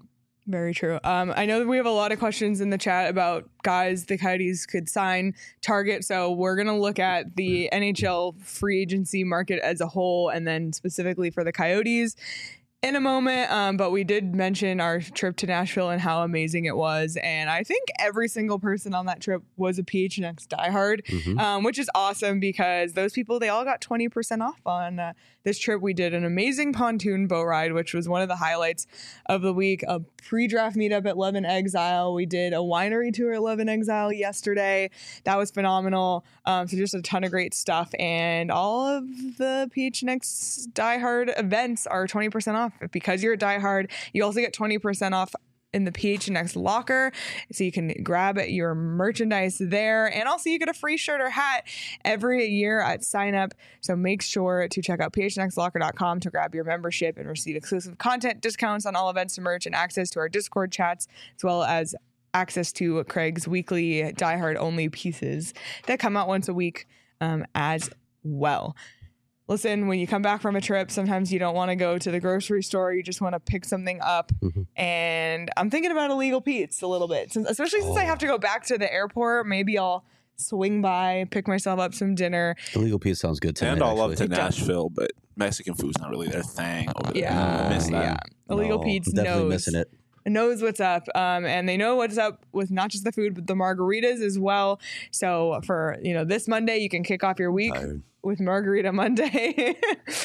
Very true. I know that we have a lot of questions in the chat about guys the Coyotes could sign, target. So we're going to look at the NHL free agency market as a whole, and then specifically for the Coyotes in a moment. But we did mention our trip to Nashville and how amazing it was. And I think every single person on that trip was a PHNX diehard, which is awesome because those people, they all got 20% off on this trip. We did an amazing pontoon boat ride, which was one of the highlights of the week. A pre-draft meetup at Love and Exile. We did a winery tour at Love and Exile yesterday. That was phenomenal. So just a ton of great stuff. And all of the PHNX diehard events are 20% off. Because you're a diehard, you also get 20% off in the PHNX locker, so you can grab your merchandise there, and also you get a free shirt or hat every year at sign up. So make sure to check out phnxlocker.com to grab your membership and receive exclusive content, discounts on all events and merch, and access to our Discord chats, as well as access to Craig's weekly diehard only pieces that come out once a week as well. Listen, when you come back from a trip, sometimes you don't want to go to the grocery store. You just want to pick something up. And I'm thinking about Illegal Pete's a little bit, especially since I have to go back to the airport. Maybe I'll swing by, pick myself up some dinner. Illegal Pete's sounds good tonight. And all up actually. to Nashville, but Mexican food's not really their thing over there. Yeah, I miss that. yeah. Illegal Pete's definitely missing it. Knows what's up, and they know what's up with not just the food but the margaritas as well. So for this Monday, you can kick off your week with Margarita Monday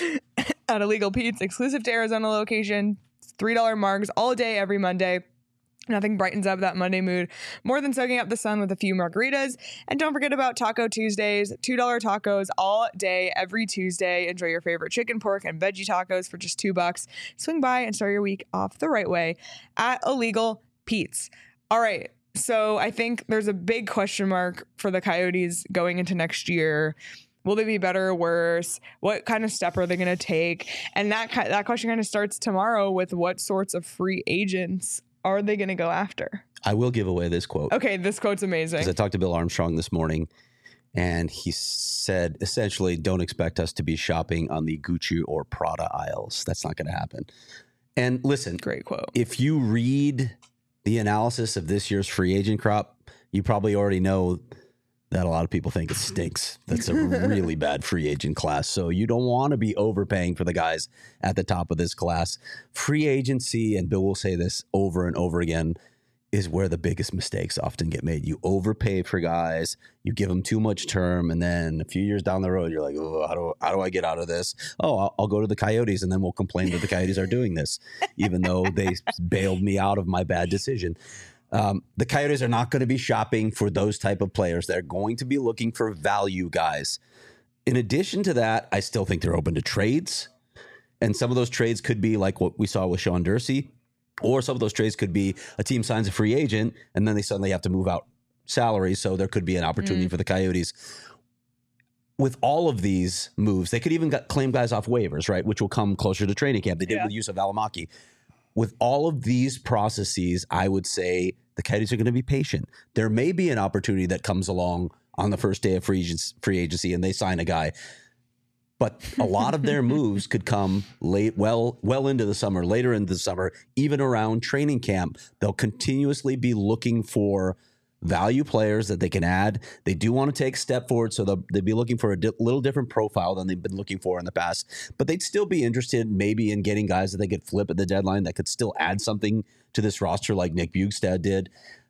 at Illegal Pete's, exclusive to Arizona location. $3 margs all day every Monday. Nothing brightens up that Monday mood more than soaking up the sun with a few margaritas. And don't forget about Taco Tuesdays, $2 tacos all day, every Tuesday. Enjoy your favorite chicken, pork, and veggie tacos for just $2. Swing by and start your week off the right way at Illegal Pete's. All right. So I think there's a big question mark for the Coyotes going into next year. Will they be better or worse? What kind of step are they going to take? And that question kind of starts tomorrow with what sorts of free agents are they going to go after? I will give away this quote. Okay, this quote's amazing. Because I talked to Bill Armstrong this morning, and he said, essentially, don't expect us to be shopping on the Gucci or Prada aisles. That's not going to happen. And listen, great quote. If you read the analysis of this year's free agent crop, you probably already know that a lot of people think it stinks. That's a really bad free agent class. So you don't want to be overpaying for the guys at the top of this class. Free agency, and Bill will say this over and over again, is where the biggest mistakes often get made. You overpay for guys, you give them too much term, and then a few years down the road, you're like, oh, how do I get out of this? Oh, I'll go to the Coyotes, and then we'll complain that the Coyotes are doing this, even though they bailed me out of my bad decision. The Coyotes are not going to be shopping for those type of players. They're going to be looking for value guys. In addition to that, I still think they're open to trades. And some of those trades could be like what we saw with Sean Dursey, or some of those trades could be a team signs a free agent and then they suddenly have to move out salary. So there could be an opportunity for the Coyotes. With all of these moves, they could even claim guys off waivers, right? Which will come closer to training camp. They did with Yusuf Alamaki. With all of these processes, I would say the Coyotes are going to be patient. There may be an opportunity that comes along on the first day of free agency and they sign a guy. But a lot of their moves could come late, well into the summer, later into the summer, even around training camp. They'll continuously be looking for value players that they can add. They do want to take a step forward, so they'll be looking for a little different profile than they've been looking for in the past. But they'd still be interested maybe in getting guys that they could flip at the deadline that could still add something to this roster like Nick Bjugstad did.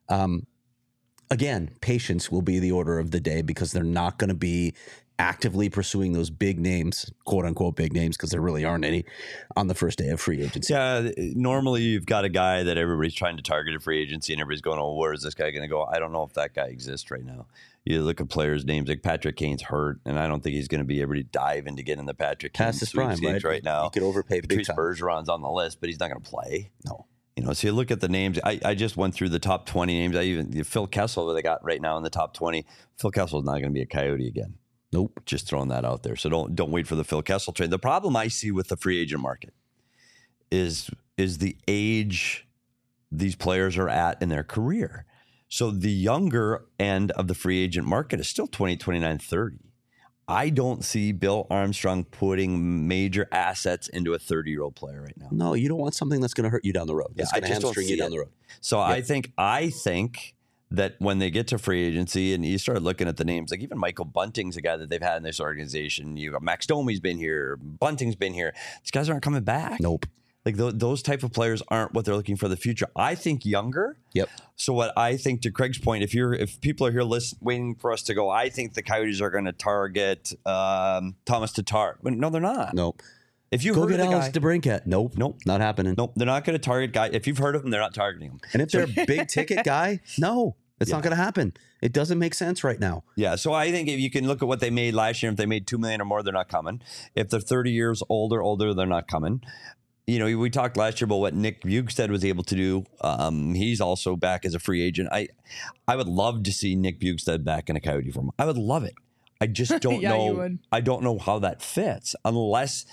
Again, patience will be the order of the day because they're not going to be actively pursuing those big names, quote unquote big names, because there really aren't any on the first day of free agency. Yeah, normally you've got a guy that everybody's trying to target at free agency and everybody's going, oh, where is this guy going to go? I don't know if that guy exists right now. You look at players' names like Patrick Kane's hurt, and I don't think he's going to be able to dive into getting the Patrick Kane past his prime, right now. He could overpay big time. Bergeron's on the list, but he's not going to play. No. So you look at the names. I just went through the top 20 names. Phil Kessel that they got right now in the top 20. Phil Kessel's not going to be a Coyote again. Nope. Just throwing that out there. So don't wait for the Phil Kessel trade. The problem I see with the free agent market is the age these players are at in their career. So the younger end of the free agent market is still 20, 29, 30. I don't see Bill Armstrong putting major assets into a 30-year-old player right now. No, you don't want something that's going to hurt you down the road. That's going to hamstring you down the road. So I think that when they get to free agency and you start looking at the names, like even Michael Bunting's a guy that they've had in this organization. You got Max Domi's been here, Bunting's been here. These guys aren't coming back. Nope. Like those type of players aren't what they're looking for the future. I think younger. Yep. So what I think, to Craig's point, if people are here waiting for us to go, I think the Coyotes are going to target Thomas Tatar. No, they're not. Nope. If you go heard get of the Alex guy, DeBrincat. Nope. Not happening. Nope. They're not going to target guy. If you've heard of him, they're not targeting him. And if they're a big ticket guy, no, it's not going to happen. It doesn't make sense right now. Yeah. So I think if you can look at what they made last year, if they made $2 million or more, they're not coming. If they're 30 years older, they're not coming. You know, we talked last year about what Nick Bjugstad was able to do. He's also back as a free agent. I would love to see Nick Bjugstad back in a Coyote form. I would love it. I just don't Yeah, know. you would. I don't know how that fits unless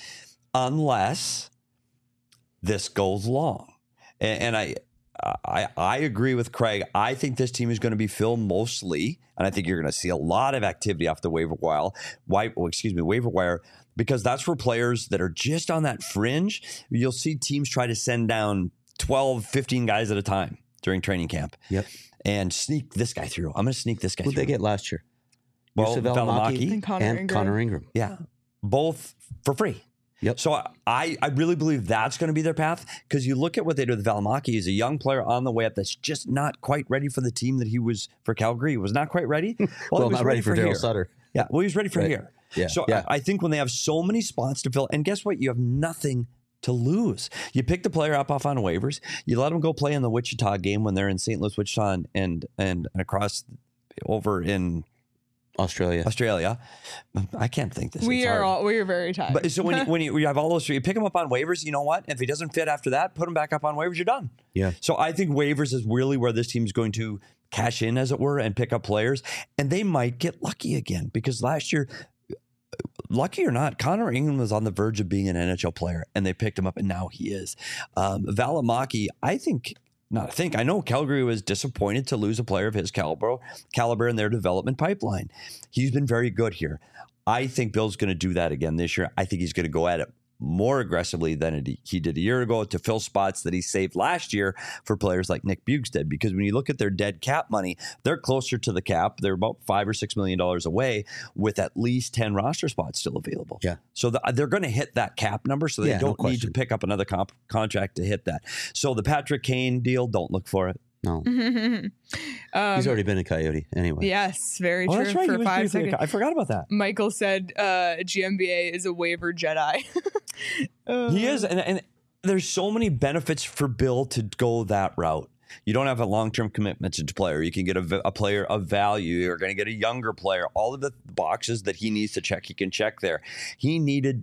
this goes long. And I agree with Craig. I think this team is going to be filled mostly, and I think you're going to see a lot of activity off the waiver wire, because that's for players that are just on that fringe. You'll see teams try to send down 12, 15 guys at a time during training camp. Yep. And sneak this guy through. I'm going to sneak this guy Who'd through. they get last year? Well, Yusuf Valimaki And Connor Ingram. Yeah. Both for free. Yep. So I really believe that's going to be their path, because you look at what they did with Valimaki. He's a young player on the way up that's just not quite ready for the team that he was for Calgary. He was not quite ready. Well, he was not ready for Daryl here. Sutter. Yeah, well, he was ready for Right. here. Yeah. So Yeah. I think when they have so many spots to fill, and guess what? You have nothing to lose. You pick the player up off on waivers. You let him go play in the Wichita game when they're in St. Louis, Wichita, and across over in Australia. I can't think this. We It's hard. are very tired. But so when you have all those three, you pick him up on waivers. You know what? If he doesn't fit after that, put him back up on waivers. You're done. Yeah. So I think waivers is really where this team is going to cash in, as it were, and pick up players. And they might get lucky again, because last year, lucky or not, Connor Ingram was on the verge of being an NHL player, and they picked him up, and now he is. Valimaki, I know Calgary was disappointed to lose a player of his caliber in their development pipeline. He's been very good here. I think Bill's going to do that again this year. I think he's going to go at it more aggressively than he did a year ago to fill spots that he saved last year for players like Nick Bjugstad. Because when you look at their dead cap money, they're closer to the cap. They're about $5 or $6 million away, with at least 10 roster spots still available. Yeah. So they're going to hit that cap number, so they don't need to pick up another contract to hit that. So the Patrick Kane deal, don't look for it. No. He's already been a Coyote anyway. Yes, very true. That's right. For 5 seconds. I forgot about that. Michael said GMBA is a waiver Jedi. He is, and there's so many benefits for Bill to go that route. You don't have a long-term commitment to a player. You can get a player of value. You're going to get a younger player. All of the boxes that he needs to check, he can check there. He needed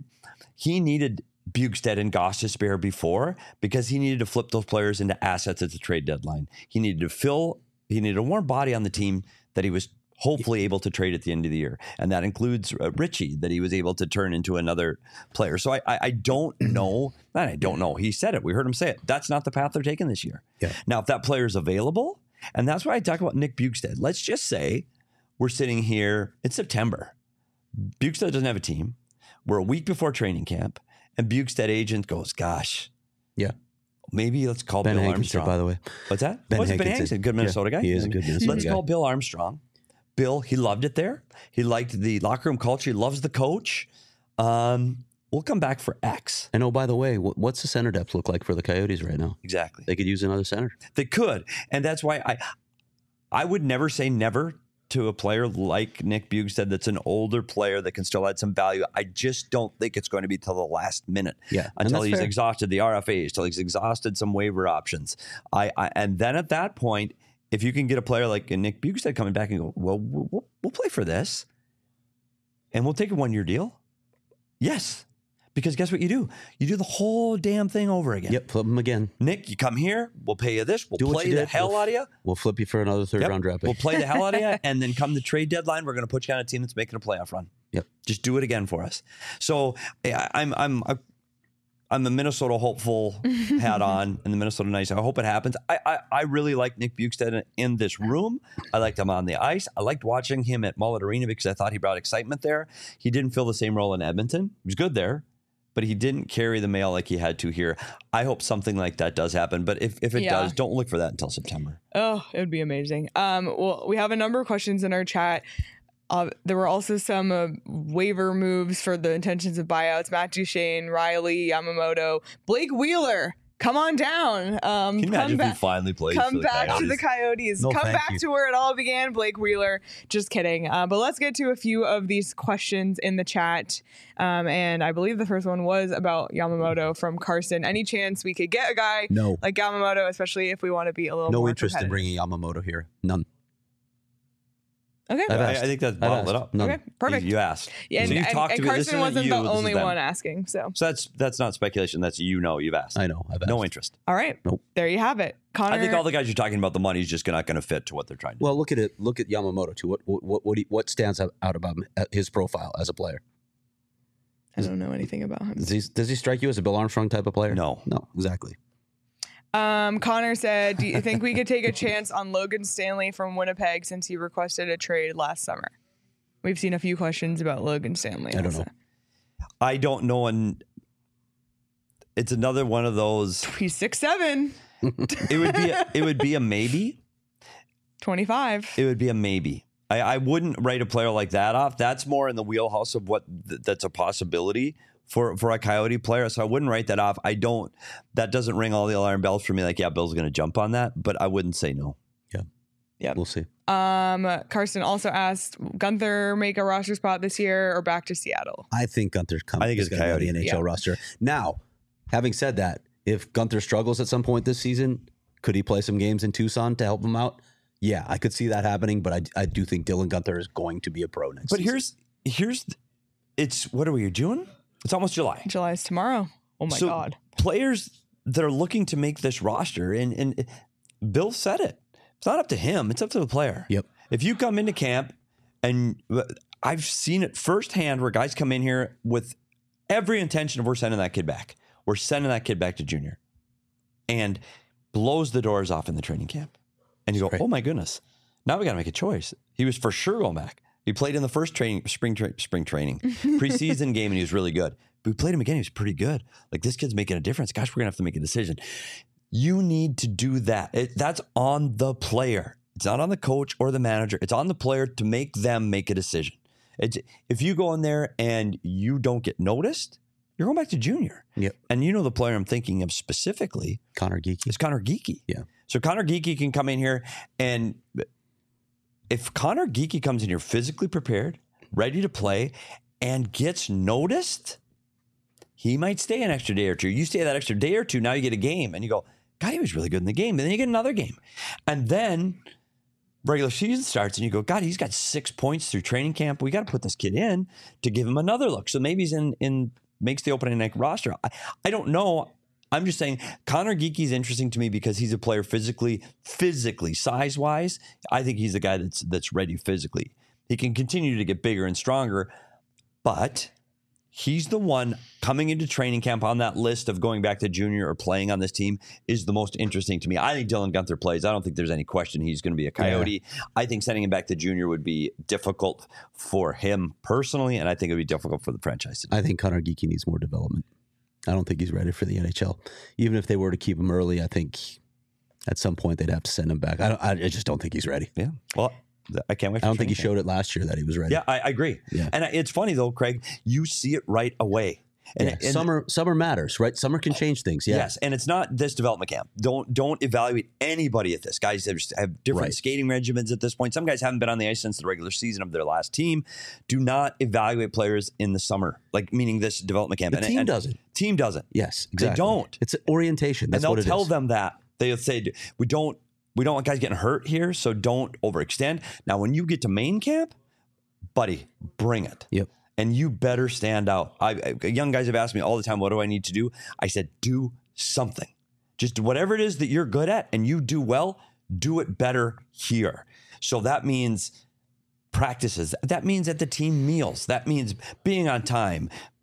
Bjugstad and Gostisbehere before, because he needed to flip those players into assets at the trade deadline. He needed a warm body on the team that he was hopefully able to trade at the end of the year. And that includes Richie, that he was able to turn into another player. So I don't know. I don't know. He said it. We heard him say it. That's not the path they're taking this year. Yeah. Now, if that player is available, and that's why I talk about Nick Bjugstad. Let's just say we're sitting here in September. Bjugstad doesn't have a team. We're a week before training camp. And Bjugstad agent goes, gosh. Yeah. Maybe let's call Ben Bill Hankinson, Armstrong. by the way. What's that? Ben Ben Hankinson. Hankinson, good Minnesota guy. He is a good Minnesota Let's guy. call Bill Armstrong. Bill, he loved it there. He liked the locker room culture. He loves the coach. We'll come back for X. And oh, by the way, what's the center depth look like for the Coyotes right now? Exactly. They could use another center. They could. And that's why I would never say never to a player like Nick Bjugstad that's an older player that can still add some value. I just don't think it's going to be till the last minute. Yeah, until he's fair. exhausted the RFAs, till he's exhausted some waiver options. And then at that point, if you can get a player like Nick Bjugstad coming back and go, well, we'll play for this, and we'll take a 1-year deal. Yes. Because guess what you do? You do the whole damn thing over again. Yep, flip them again. Nick, you come here, we'll pay you this, we'll Do what play you the did. hell out of you. We'll flip you for another third-round draft pick. We'll play the hell out of you, and then come the trade deadline, we're going to put you on a team that's making a playoff run. Yep. Just do it again for us. So I'm I'm the Minnesota hopeful hat on and the Minnesota nice. I hope it happens. I really like Nick Bjugstad in this room. I liked him on the ice. I liked watching him at Mullet Arena because I thought he brought excitement there. He didn't fill the same role in Edmonton. He was good there, but he didn't carry the mail like he had to here. I hope something like that does happen. But if it does, don't look for that until September. Oh, it would be amazing. Well, we have a number of questions in our chat. There were also some waiver moves for the intentions of buyouts. Matt Duchene, Riley, Yamamoto, Blake Wheeler. Come on down. Can you imagine if he finally plays? Come back to the Coyotes. No, come back you. to where it all began, Blake Wheeler. Just kidding. But let's get to a few of these questions in the chat. And I believe the first one was about Yamamoto from Carson. Any chance we could get a guy like Yamamoto, especially if we want to be a little more interest in competitive? bringing Yamamoto here. None. Okay. I think that's bottled it up. None. Okay, perfect. You asked. Yeah, So you talked and to me. This Carson isn't wasn't you, the this is only them. one asking. So So that's not speculation. That's you've asked. I know. I've asked. No interest. all right. Nope. There you have it. Connor. I think all the guys you're talking about, the money's just not going to fit to what they're trying to do. Well, look at it. Look at Yamamoto too. What stands out about his profile as a player? I don't know anything about him. Does he strike you as a Bill Armstrong type of player? No. Exactly. Connor said, do you think we could take a chance on Logan Stanley from Winnipeg since he requested a trade last summer? We've seen a few questions about Logan Stanley. I don't know. I don't know, and it's another one of those. He's 6'7", It would be a maybe. 25. It would be a maybe. I wouldn't write a player like that off. That's more in the wheelhouse of what that's a possibility for a Coyote player. So I wouldn't write that off. That doesn't ring all the alarm bells for me. Like, yeah, Bill's going to jump on that, but I wouldn't say no. Yeah. We'll see. Carson also asked, Gunther make a roster spot this year or back to Seattle? I think Gunther I think is it's going to be Coyote. the NHL roster. Now, having said that, if Gunther struggles at some point this season, could he play some games in Tucson to help him out? Yeah, I could see that happening, but I do think Dylan Gunther is going to be a pro next season. But it's what are we, June? It's almost July. July is tomorrow. Oh my God. Players that are looking to make this roster, and Bill said it. It's not up to him. It's up to the player. Yep. If you come into camp, and I've seen it firsthand where guys come in here with every intention of we're sending that kid back. We're sending that kid back to junior. And blows the doors off in the training camp. And you go, oh my goodness. Now we got to make a choice. He was for sure going back. He played in the first spring training, preseason game, and he was really good. But we played him again. He was pretty good. Like, this kid's making a difference. Gosh, we're going to have to make a decision. You need to do that. That's on the player. It's not on the coach or the manager. It's on the player to make them make a decision. If you go in there and you don't get noticed, you're going back to junior. Yep. And you know the player I'm thinking of specifically Connor Geekie. is Connor Geekie. Yeah. So Connor Geekie can come in here, and if Connor Geekie comes in here physically prepared, ready to play, and gets noticed, he might stay an extra day or two. You stay that extra day or two, now you get a game, and you go, God, he was really good in the game. And then you get another game. And then regular season starts, and you go, God, he's got 6 points through training camp. We got to put this kid in to give him another look. So maybe he's in makes the opening night roster. I don't know. I'm just saying Connor Geekie's interesting to me because he's a player physically, size-wise. I think he's the guy that's ready physically. He can continue to get bigger and stronger, but he's the one coming into training camp on that list of going back to junior or playing on this team is the most interesting to me. I think Dylan Gunther plays. I don't think there's any question he's going to be a Coyote. Yeah. I think sending him back to junior would be difficult for him personally, and I think it would be difficult for the franchise. I think Connor Geekie needs more development. I don't think he's ready for the NHL. Even if they were to keep him early, I think at some point they'd have to send him back. I just don't think he's ready. Yeah. Well, I can't wait. I don't think he showed it last year that he was ready. Yeah, I agree. Yeah. And it's funny though, Craig, you see it right away. And summer matters, right? Summer can change things. Yeah. Yes, and it's not this development camp. Don't evaluate anybody at this. Guys have different skating regimens at this point. Some guys haven't been on the ice since the regular season of their last team. Do not evaluate players in the summer, like meaning this development camp. The team doesn't. Team doesn't. Yes, exactly. They don't. It's an orientation. That's and what it is. they'll tell them that. They'll say, we don't want guys getting hurt here, so don't overextend. Now, when you get to main camp, buddy, bring it. Yep. And you better stand out. Young guys have asked me all the time, what do I need to do? I said, do something. Just whatever it is that you're good at and you do well, do it better here. So that means practices. That means at the team meals. That means being on time,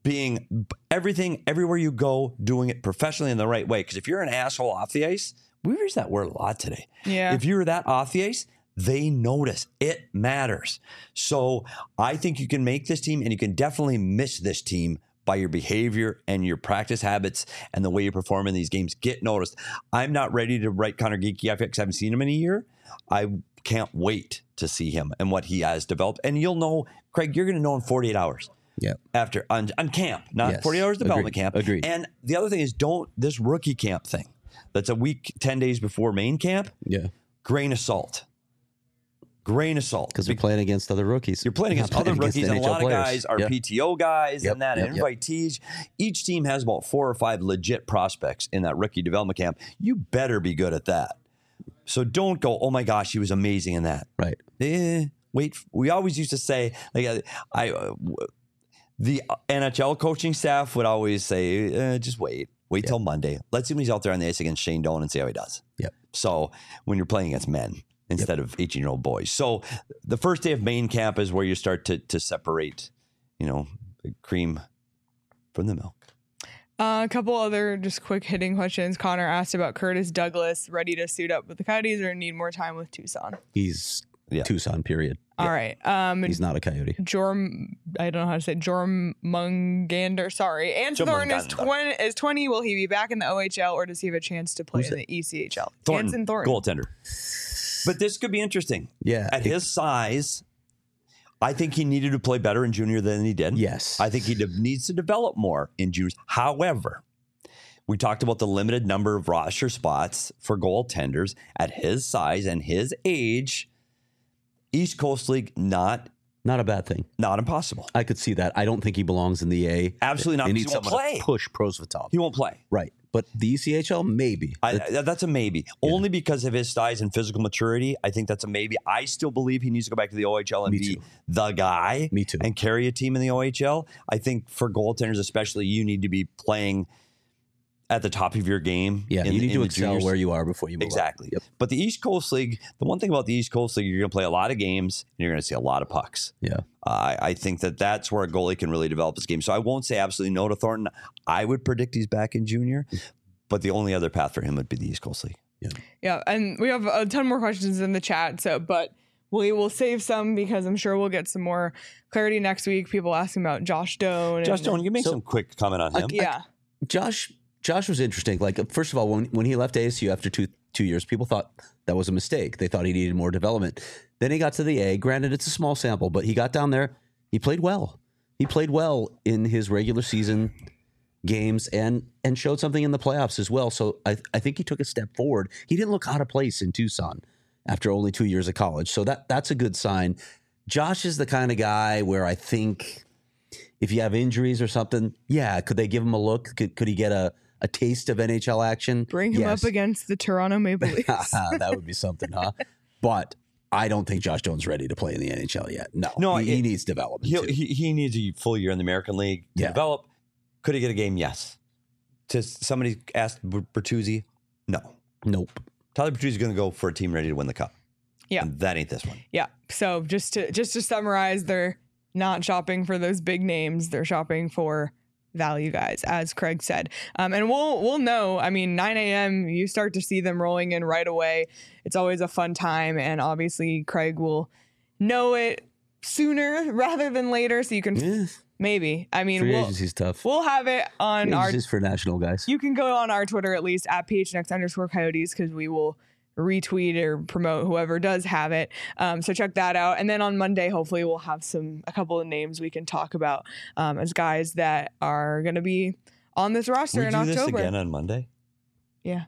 being everything, everywhere you go, doing it professionally in the right way. Because if you're an asshole off the ice, we've used that word a lot today. Yeah. If you're that off the ice, they notice. It matters. So I think you can make this team, and you can definitely miss this team by your behavior and your practice habits and the way you perform in these games. Get noticed. I'm not ready to write Connor Geekie off because I haven't seen him in a year. I can't wait to see him and what he has developed. And you'll know, Craig, you're going to know in 48 hours. Yeah. After on camp, not 48 hours development camp. Agreed. And the other thing is, this rookie camp thing that's a week, 10 days before main camp. Yeah. Grain of salt. Because you're playing against other rookies. You're playing against other rookies, and a lot of guys are Yep. PTO guys Yep. and that, and invitees. Each team has about 4 or 5 legit prospects in that rookie development camp. You better be good at that. So don't go, oh my gosh, he was amazing in that. Right. Wait. We always used to say, like, the NHL coaching staff would always say, just wait till Monday. Let's see when he's out there on the ice against Shane Doan and see how he does. Yep. So when you're playing against men instead of 18-year-old boys. So the first day of main camp is where you start to separate, the cream from the milk. A couple other just quick hitting questions. Connor asked about Curtis Douglas, ready to suit up with the Coyotes or need more time with Tucson? He's Tucson, period. All right. He's not a Coyote. I don't know how to say Jormungander. Sorry. Anson is 20. Will he be back in the OHL or does he have a chance to play in the ECHL? Anson Thornton. Goaltender. But this could be interesting. Yeah. At his size, I think he needed to play better in junior than he did. Yes. I think he needs to develop more in juniors. However, we talked about the limited number of roster spots for goaltenders at his size and his age. East Coast League, not a bad thing. Not impossible. I could see that. I don't think he belongs in the A. Absolutely not. They need He won't someone play. to push Prosvetov. He won't play. Right. But the ECHL, maybe. That's a maybe. Only because of his size and physical maturity. I think that's a maybe. I still believe he needs to go back to the OHL and be the guy. Me too. And carry a team in the OHL. I think for goaltenders especially, you need to be playing at the top of your game. Yeah, you need to excel juniors. where you are before you move Exactly. up. Yep. But the East Coast League, the one thing about the East Coast League, you're going to play a lot of games and you're going to see a lot of pucks. Yeah. I think that's where a goalie can really develop his game. So I won't say absolutely no to Thornton. I would predict he's back in junior, but the only other path for him would be the East Coast League. Yeah, and we have a ton more questions in the chat, but we will save some because I'm sure we'll get some more clarity next week. People asking about Josh Doan. Josh Doan, you make some quick comment on him. Josh was interesting. Like, first of all, when he left ASU after two years, people thought that was a mistake. They thought he needed more development. Then he got to the A. Granted, it's a small sample, but he got down there. He played well. He played well in his regular season games and showed something in the playoffs as well. So I think he took a step forward. He didn't look out of place in Tucson after only 2 years of college. So that's a good sign. Josh is the kind of guy where I think if you have injuries or something, could they give him a look? Could he get a taste of NHL action? Bring him up against the Toronto Maple Leafs. That would be something, huh? But I don't think Josh Doan's ready to play in the NHL yet. No, he needs development. He needs a full year in the American League to develop. Could he get a game? Yes. Somebody asked Bertuzzi. No. Nope. Tyler Bertuzzi is going to go for a team ready to win the cup. Yeah. And that ain't this one. Yeah. So just to summarize, they're not shopping for those big names. They're shopping for value guys, as Craig said. And we'll know. I mean, 9 a.m., you start to see them rolling in right away. It's always a fun time. And obviously, Craig will know it sooner rather than later. So you can maybe. I mean, free agency's tough. We'll have it on free agency's for national guys. You can go on our Twitter at least at PHNX_Coyotes because we will retweet or promote whoever does have it. So check that out. And then on Monday, hopefully we'll have a couple of names we can talk about as guys that are going to be on this roster in October. We do this again on Monday? Yeah.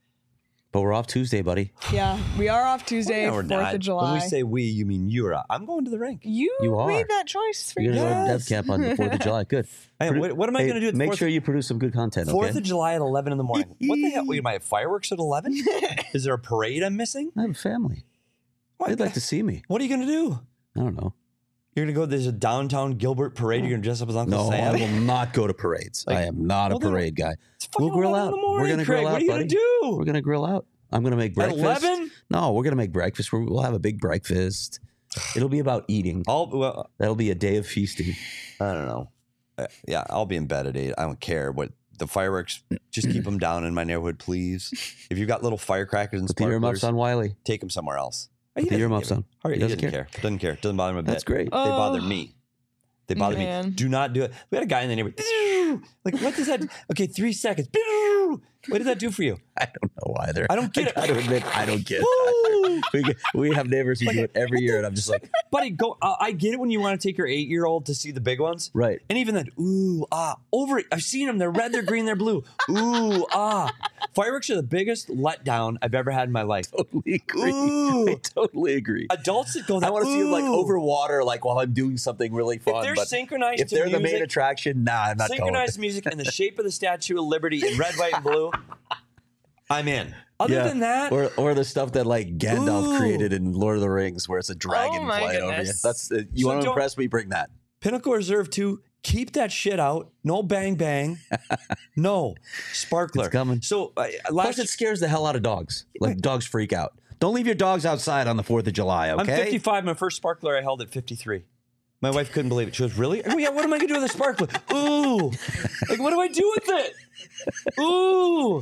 But we're off Tuesday, buddy. Yeah, we are off Tuesday, 4th of July. When we say we, you mean you're out. I'm going to the rink. You are. made that choice for You're going to go to Dev Camp on the 4th of July. Good. Hey, what am I going to do at the Make 4th? sure you produce some good content, 4th of July at 11 in the morning. What the hell? Wait, am I have fireworks at 11? Is there a parade I'm missing? I have a family. They'd like to see me. What are you going to do? I don't know. You're going to go, there's a downtown Gilbert parade. You're going to dress up as Uncle Sam? No, I will not go to parades. I am not a parade guy. We'll grill out. We're going to grill out, What are you going to do? We're going to grill out. I'm going to make breakfast. At 11? No, we're going to make breakfast. We'll have a big breakfast. It'll be about eating. That'll be a day of feasting. I don't know. Yeah, I'll be in bed at 8. I don't care. But the fireworks, just keep them down in my neighborhood, please. If you've got little firecrackers and Put the earmuffs sparklers, on Wiley. take them somewhere else. Put the earmuffs on. He doesn't care. Doesn't care. Doesn't bother him a bit. That's great. They bother me. They bother me. Man. Do not do it. We had a guy in the neighborhood. Like, what does that? Okay, 3 seconds. What does that do for you? I don't know either. I don't get it. I gotta admit, I don't get it. We have neighbors who do it every year, and I'm just like, buddy, go. I get it when you want to take your 8-year-old to see the big ones. right. And even then, ooh, ah, over it. I've seen them. They're red, they're green, they're blue. Ooh, ah. Fireworks are the biggest letdown I've ever had in my life. Totally agree. Ooh. I totally agree. Adults that go that, I want to see them like ooh. over water, like while I'm doing something really fun. If they're but synchronized if to they're the music, main attraction, nah, I'm not going. synchronized music and the shape of the Statue of Liberty in red, white, and blue, I'm in. Other than that, or the stuff that like Gandalf Ooh. created in Lord of the Rings, where it's a dragon Oh my flying over you. goodness. That's you So want to don't- impress me? Bring that. Pinnacle Reserve 2, keep that shit out. No bang bang. No sparkler. It's coming. So Plus, last it scares the hell out of dogs. Like dogs freak out. Don't leave your dogs outside on the 4th of July. Okay. I'm 55. My first sparkler I held at 53. My wife couldn't believe it. She goes, "Really? Oh yeah. What am I gonna do with a sparkler? Ooh, like what do I do with it? Ooh."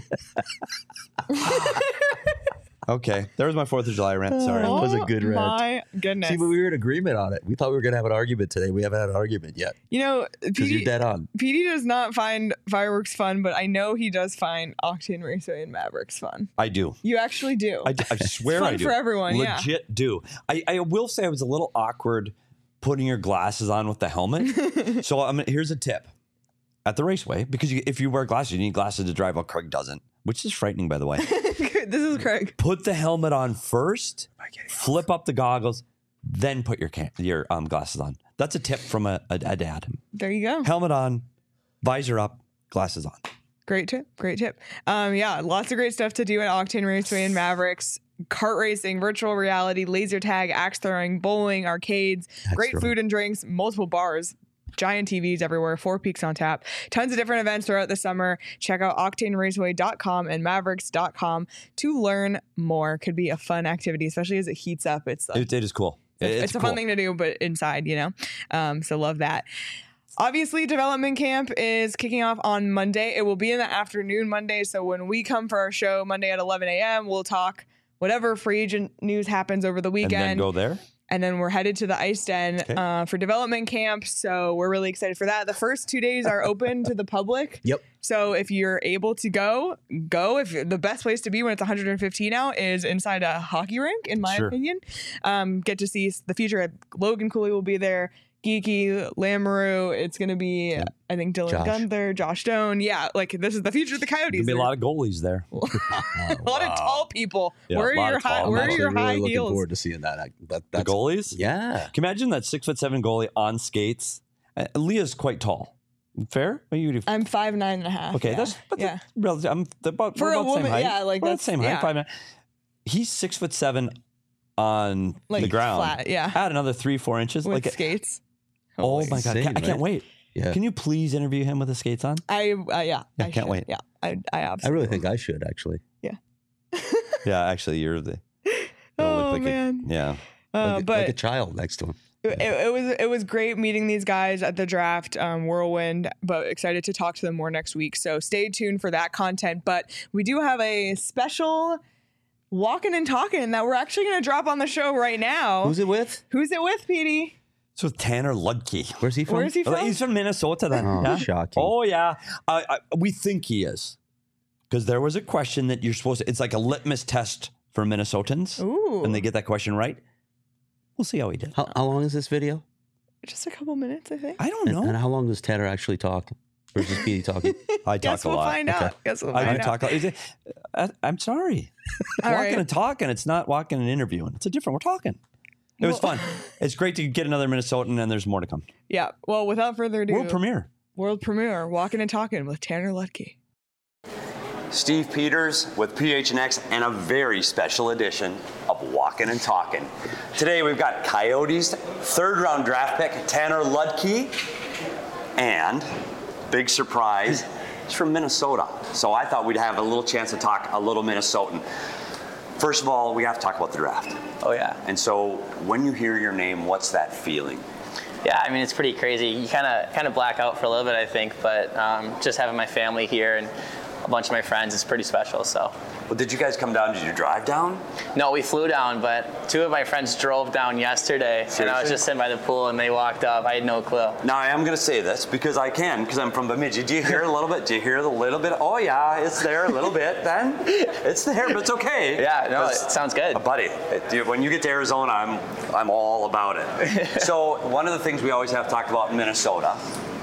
Okay, there was my 4th of July rant. Sorry. That was a good rant. My goodness. See, but we were in agreement on it. We thought we were going to have an argument today. We haven't had an argument yet You know, because you're PD, dead on. PD does not find fireworks fun, but I know he does find Octane Raceway and Mavericks fun. I do. You actually do. I swear It's fun I do. for everyone, yeah. Legit do. I will say I was a little awkward putting your glasses on with the helmet. So here's a tip. At the raceway, because if you wear glasses, you need glasses to drive. Well, Craig doesn't, which is frightening, by the way. This is Craig. Put the helmet on first, flip up the goggles, then put your glasses on. That's a tip from a dad. There you go. Helmet on, visor up, glasses on. Great tip. Great tip. Yeah, lots of great stuff to do at Octane Raceway and Mavericks. Kart racing, virtual reality, laser tag, axe throwing, bowling, arcades, great throwing. food and drinks, multiple bars, giant TVs everywhere, 4 Peaks on tap, tons of different events throughout the summer. Check out octaneraceway.com and mavericks.com to learn more. Could be a fun activity, especially as it heats up. It's It is cool. it's a cool. fun thing to do, but inside, you know? So love that. Obviously, development camp is kicking off on Monday. It will be in the afternoon Monday. So when we come for our show Monday at 11 a.m., we'll talk whatever free agent news happens over the weekend. And then go there? And then we're headed to the Ice Den for development camp. So we're really excited for that. The first 2 days are open to the public. Yep. So if you're able to go. If the best place to be when it's 115 out is inside a hockey rink, in my Sure. opinion. Get to see the future. Logan Cooley will be there. Geeky, Lamoureux. It's going to be, I think, Dylan Josh. Gunther, Josh Stone. Yeah, like this is the future of the Coyotes. There'll be a lot of goalies there. a lot of tall people. Yeah, where a lot are your of tall- high? I'm Where are Actually your high really looking heels? forward to seeing that. The That's goalies? Yeah. Can you imagine that 6'7" goalie on skates? Leah's quite tall. Fair? What do you do? I'm 5'9.5". Okay, yeah. that's yeah. relative. I'm about For we're a about the same woman, height. yeah, like We're about that's the same height. yeah. 5'9". He's 6'7" on Like the ground. flat, yeah. Add another 3-4 inches. With like skates. oh Holy- my god, insane, I can't right? wait. Yeah. Can you please interview him with the skates on? I Yeah, I can't should. wait. Yeah, I I absolutely. really think I should actually. Yeah, actually, you're the. you'll Oh look like man. yeah. Like But a child next to him. it was great meeting these guys at the draft whirlwind, but excited to talk to them more next week. So stay tuned for that content. But we do have a special walking and talking that we're actually going to drop on the show right now. Who's it with? Who's it with, Petey? So Tanner Ludke. Where's he from? Where is he from? He's from Minnesota then. Oh, yeah? shocking. Oh, yeah. We think he is. Because there was a question that you're supposed to, it's like a litmus test for Minnesotans. Ooh, And they get that question right. We'll see how he did. How long is this video? just a couple minutes, I think. I don't know. And how long does Tanner actually talk? Or is just Petey talking? I Guess talk a we'll lot. find out. Guess we'll I find do out. talk a lot. I'm sorry. All Walking right. and talking. It's not walking and interviewing. It's a different. We're talking. It was Well- fun. It's great to get another Minnesotan, and there's more to come. Yeah. Well, without further ado, World premiere. World premiere, Walking and Talking with Tanner Ludke. Steve Peters with PHNX and a very special edition of Walking and Talking. Today we've got Coyotes third round draft pick Tanner Ludke, and big surprise, he's from Minnesota. So I thought we'd have a little chance to talk a little Minnesotan. First of all, we have to talk about the draft. Oh yeah. And so when you hear your name, what's that feeling? Yeah, I mean, it's pretty crazy. You kind of black out for a little bit, I think, but just having my family here and a bunch of my friends is pretty special. So. Well, did you guys come down? Did you drive down? No, we flew down, but 2 of my friends drove down yesterday. Seriously? And I was just sitting by the pool, and they walked up. I had no clue. Now, I am going to say this because I'm from Bemidji. Do you hear a little bit? Do you hear the little bit? Oh, yeah, it's there a little bit then. It's there, but it's okay. Yeah, no, it sounds good. Buddy, when you get to Arizona, I'm all about it. So one of the things we always have talked about in Minnesota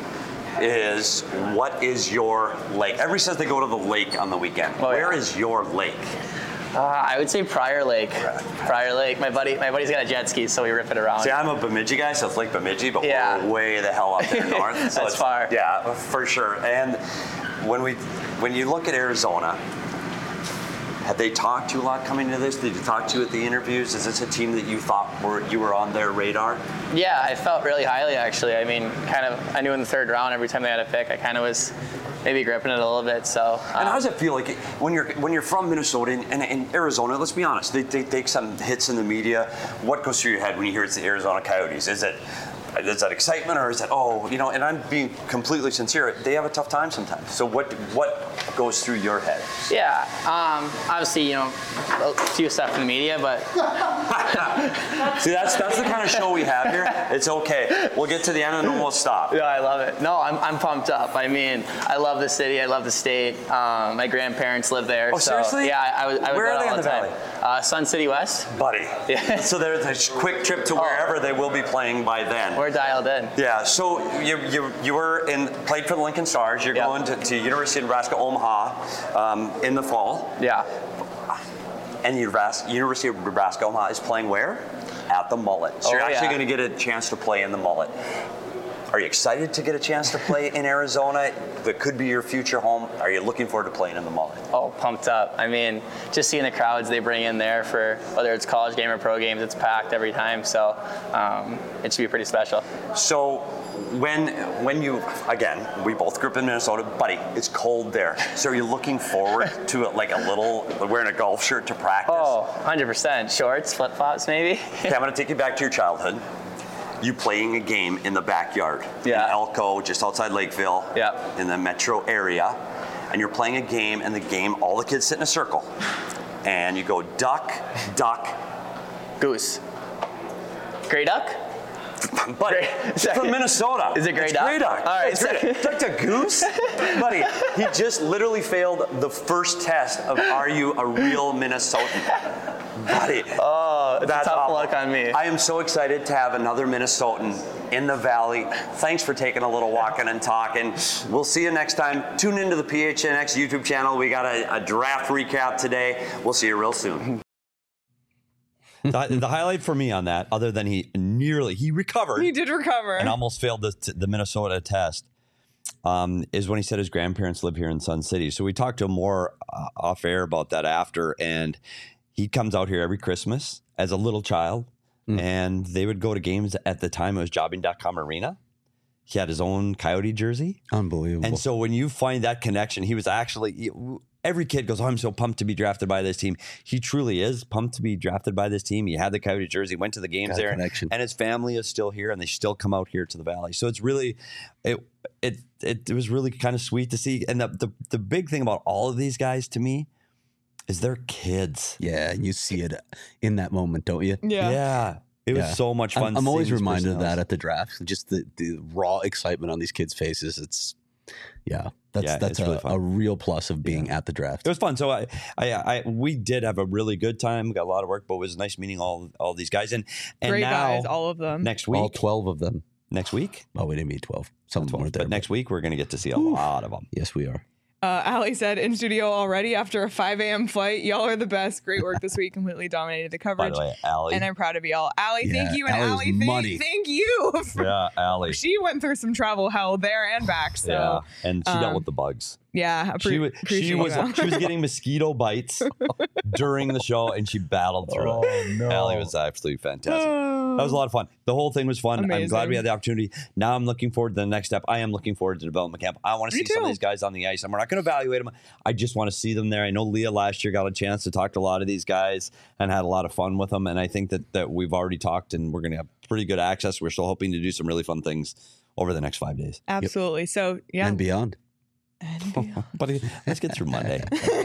is what is your lake? Everybody says they go to the lake on the weekend. Oh, Where yeah. is your lake? I would say Prior Lake. Prior Lake. My buddy's got a jet ski, so we rip it around. See, I'm a Bemidji guy, so it's Lake Bemidji, but Yeah. we're way the hell up there north. So That's far. Yeah, for sure. And when you look at Arizona, have they talked to you a lot coming to this? Did you talk to you at the interviews? Is this a team that you thought you were on their radar? Yeah, I felt really highly, actually. I mean, I knew in the 3rd round, every time they had a pick, I kind of was maybe gripping it a little bit. So. And how does it feel like when you're from Minnesota and Arizona? Let's be honest, they take some hits in the media. What goes through your head when you hear it's the Arizona Coyotes? Is that excitement, or is it and I'm being completely sincere, they have a tough time sometimes. So what goes through your head? Yeah, obviously, a few stuff in the media, but See, that's the kind of show we have here. It's okay. We'll get to the end and then we'll stop. yeah, I love it. No, I'm pumped up. I mean, I love the city, I love the state. My grandparents live there. Oh, so, seriously? Yeah, I would Where go are they all in the time. Sun City West. Buddy. Yeah. So there's a quick trip to wherever they will be playing by then. We're dialed in. Yeah, so you were played for the Lincoln Stars. You're Yep. going to University of Nebraska Omaha in the fall. Yeah. And University of Nebraska Omaha is playing where? At the Mullet. So you're actually yeah. going to get a chance to play in the Mullet. Are you excited to get a chance to play in Arizona? That could be your future home. Are you looking forward to playing in the Mullet? Oh, pumped up. I mean, just seeing the crowds they bring in there for whether it's college game or pro games, it's packed every time. So it should be pretty special. So when you, again, we both grew up in Minnesota, buddy, it's cold there. So are you looking forward to wearing a golf shirt to practice? Oh, 100%. Shorts, flip-flops maybe. Okay, I'm going to take you back to your childhood. You playing a game in the backyard Yeah. in Elko, just outside Lakeville, Yeah. in the metro area, and you're playing a game, and the game, all the kids sit in a circle, and you go duck, duck, Goose. Gray duck? buddy. Gray- It's from Minnesota. Is it gray It's duck? Gray duck. All right, It's gray duck. Duck to goose, buddy. He just literally failed the first test of Are You a Real Minnesotan? Buddy. Oh, that's a tough awful. luck on me. I am so excited to have another Minnesotan in the Valley. Thanks for taking a little walking and talking. We'll see you next time. Tune into the PHNX YouTube channel. We got a draft recap today. We'll see you real soon. The highlight for me on that, other than he recovered. He did recover. And almost failed the Minnesota test, is when he said his grandparents live here in Sun City. So we talked to him more off air about that after, and he comes out here every Christmas as a little child, and they would go to games. At the time, it was Jobbing.com Arena. He had his own Coyote jersey. Unbelievable. And so when you find that connection, he was actually... Every kid goes, oh, I'm so pumped to be drafted by this team. He truly is pumped to be drafted by this team. He had the Coyote jersey, went to the games there, and his family is still here, and they still come out here to the Valley. So it's really, it was really kind of sweet to see. And the big thing about all of these guys to me is they're kids. Yeah, you see it in that moment, don't you? Yeah. It was so much fun. I'm always seeing these reminded of that personalities. at the draft. Just the raw excitement on these kids' faces. It's that's it's really fun. a real plus of being at the draft. It was fun. So we did have a really good time. We got a lot of work, but it was nice meeting all these guys. And Great now, guys, all of them. next week, All 12 of them. next week, Oh, we didn't meet 12. Some of them weren't there. but next week we're going to get to see a lot of them. Yes, we are. Allie said, in studio already after a 5 a.m. flight. Y'all are the best. Great work this week. Completely dominated the By coverage. the way, Allie. And I'm proud of y'all. Allie, Yeah, thank you. And Allie's Allie, money. thank you. Yeah, Allie. She went through some travel hell there and back. So, Yeah, and she dealt with the bugs. yeah, She was that. getting mosquito bites during the show, and she battled through it. no. Allie was absolutely fantastic. That was a lot of fun. The whole thing was fun. Amazing. I'm glad we had the opportunity. Now I'm looking forward to the next step. I am looking forward to development camp. I want to see some of these guys on the ice. And we're not going to evaluate them. I just want to see them there. I know Leah last year got a chance to talk to a lot of these guys and had a lot of fun with them. And I think that we've already talked and we're going to have pretty good access. We're still hoping to do some really fun things over the next 5 days. Absolutely. So, yeah. And beyond. But let's get through Monday.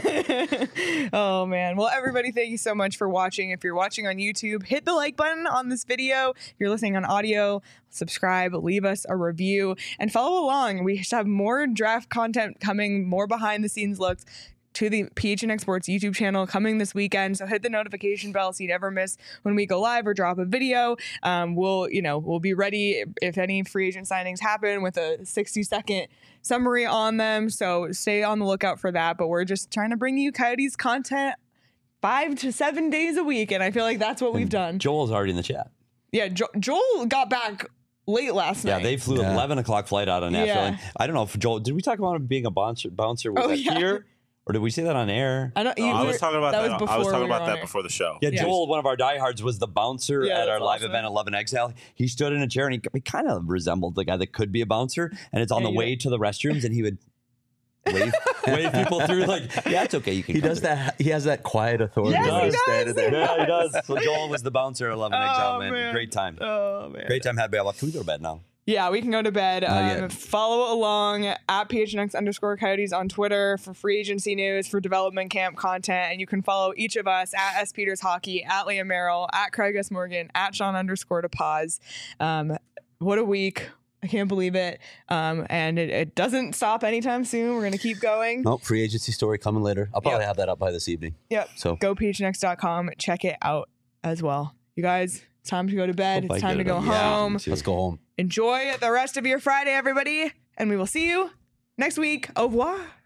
Oh man. Well, everybody, thank you so much for watching. If you're watching on YouTube, hit the like button on this video. If you're listening on audio, subscribe, leave us a review, and follow along. We have more draft content coming, more behind the scenes looks to the PHNX Sports YouTube channel coming this weekend. So hit the notification bell so you never miss when we go live or drop a video. We'll be ready if any free agent signings happen with a 60-second summary on them. So stay on the lookout for that. But we're just trying to bring you Coyotes content 5 to 7 days a week. And I feel like that's what we've done. Joel's already in the chat. Yeah, Joel got back late last night. Yeah, they flew 11 o'clock flight out of Nashville. Yeah. I don't know if Joel, did we talk about him being a bouncer? Was here? Or did we say that on air? I was talking about that. I was talking about that air. before the show. Yeah, Joel, one of our diehards, was the bouncer at our live awesome. event, 11 Exile. He stood in a chair and he kind of resembled the guy that could be a bouncer. And it's on the way to the restrooms, and he would wave people through. Like, yeah, it's okay. You can. He does that. He has that quiet authority. Yes, he does. Yeah, he does. So Joel was the bouncer at 11 Exile, man. Great time. Oh man. Great time. Had Can we go to bed now? Yeah, we can go to bed. Follow along at PHNX_Coyotes on Twitter for free agency news, for development camp content. And you can follow each of us at S. Peters Hockey, at Liam Merrill, at Craig S. Morgan, at Sean_DePaz. What a week. I can't believe it. And it doesn't stop anytime soon. We're going to keep going. Nope, free agency story coming later. I'll probably have that up by this evening. Yep. So go PHNX.com. Check it out as well. You guys, it's time to go to bed. It's time to go home. Let's go home. Enjoy the rest of your Friday, everybody. And we will see you next week. Au revoir.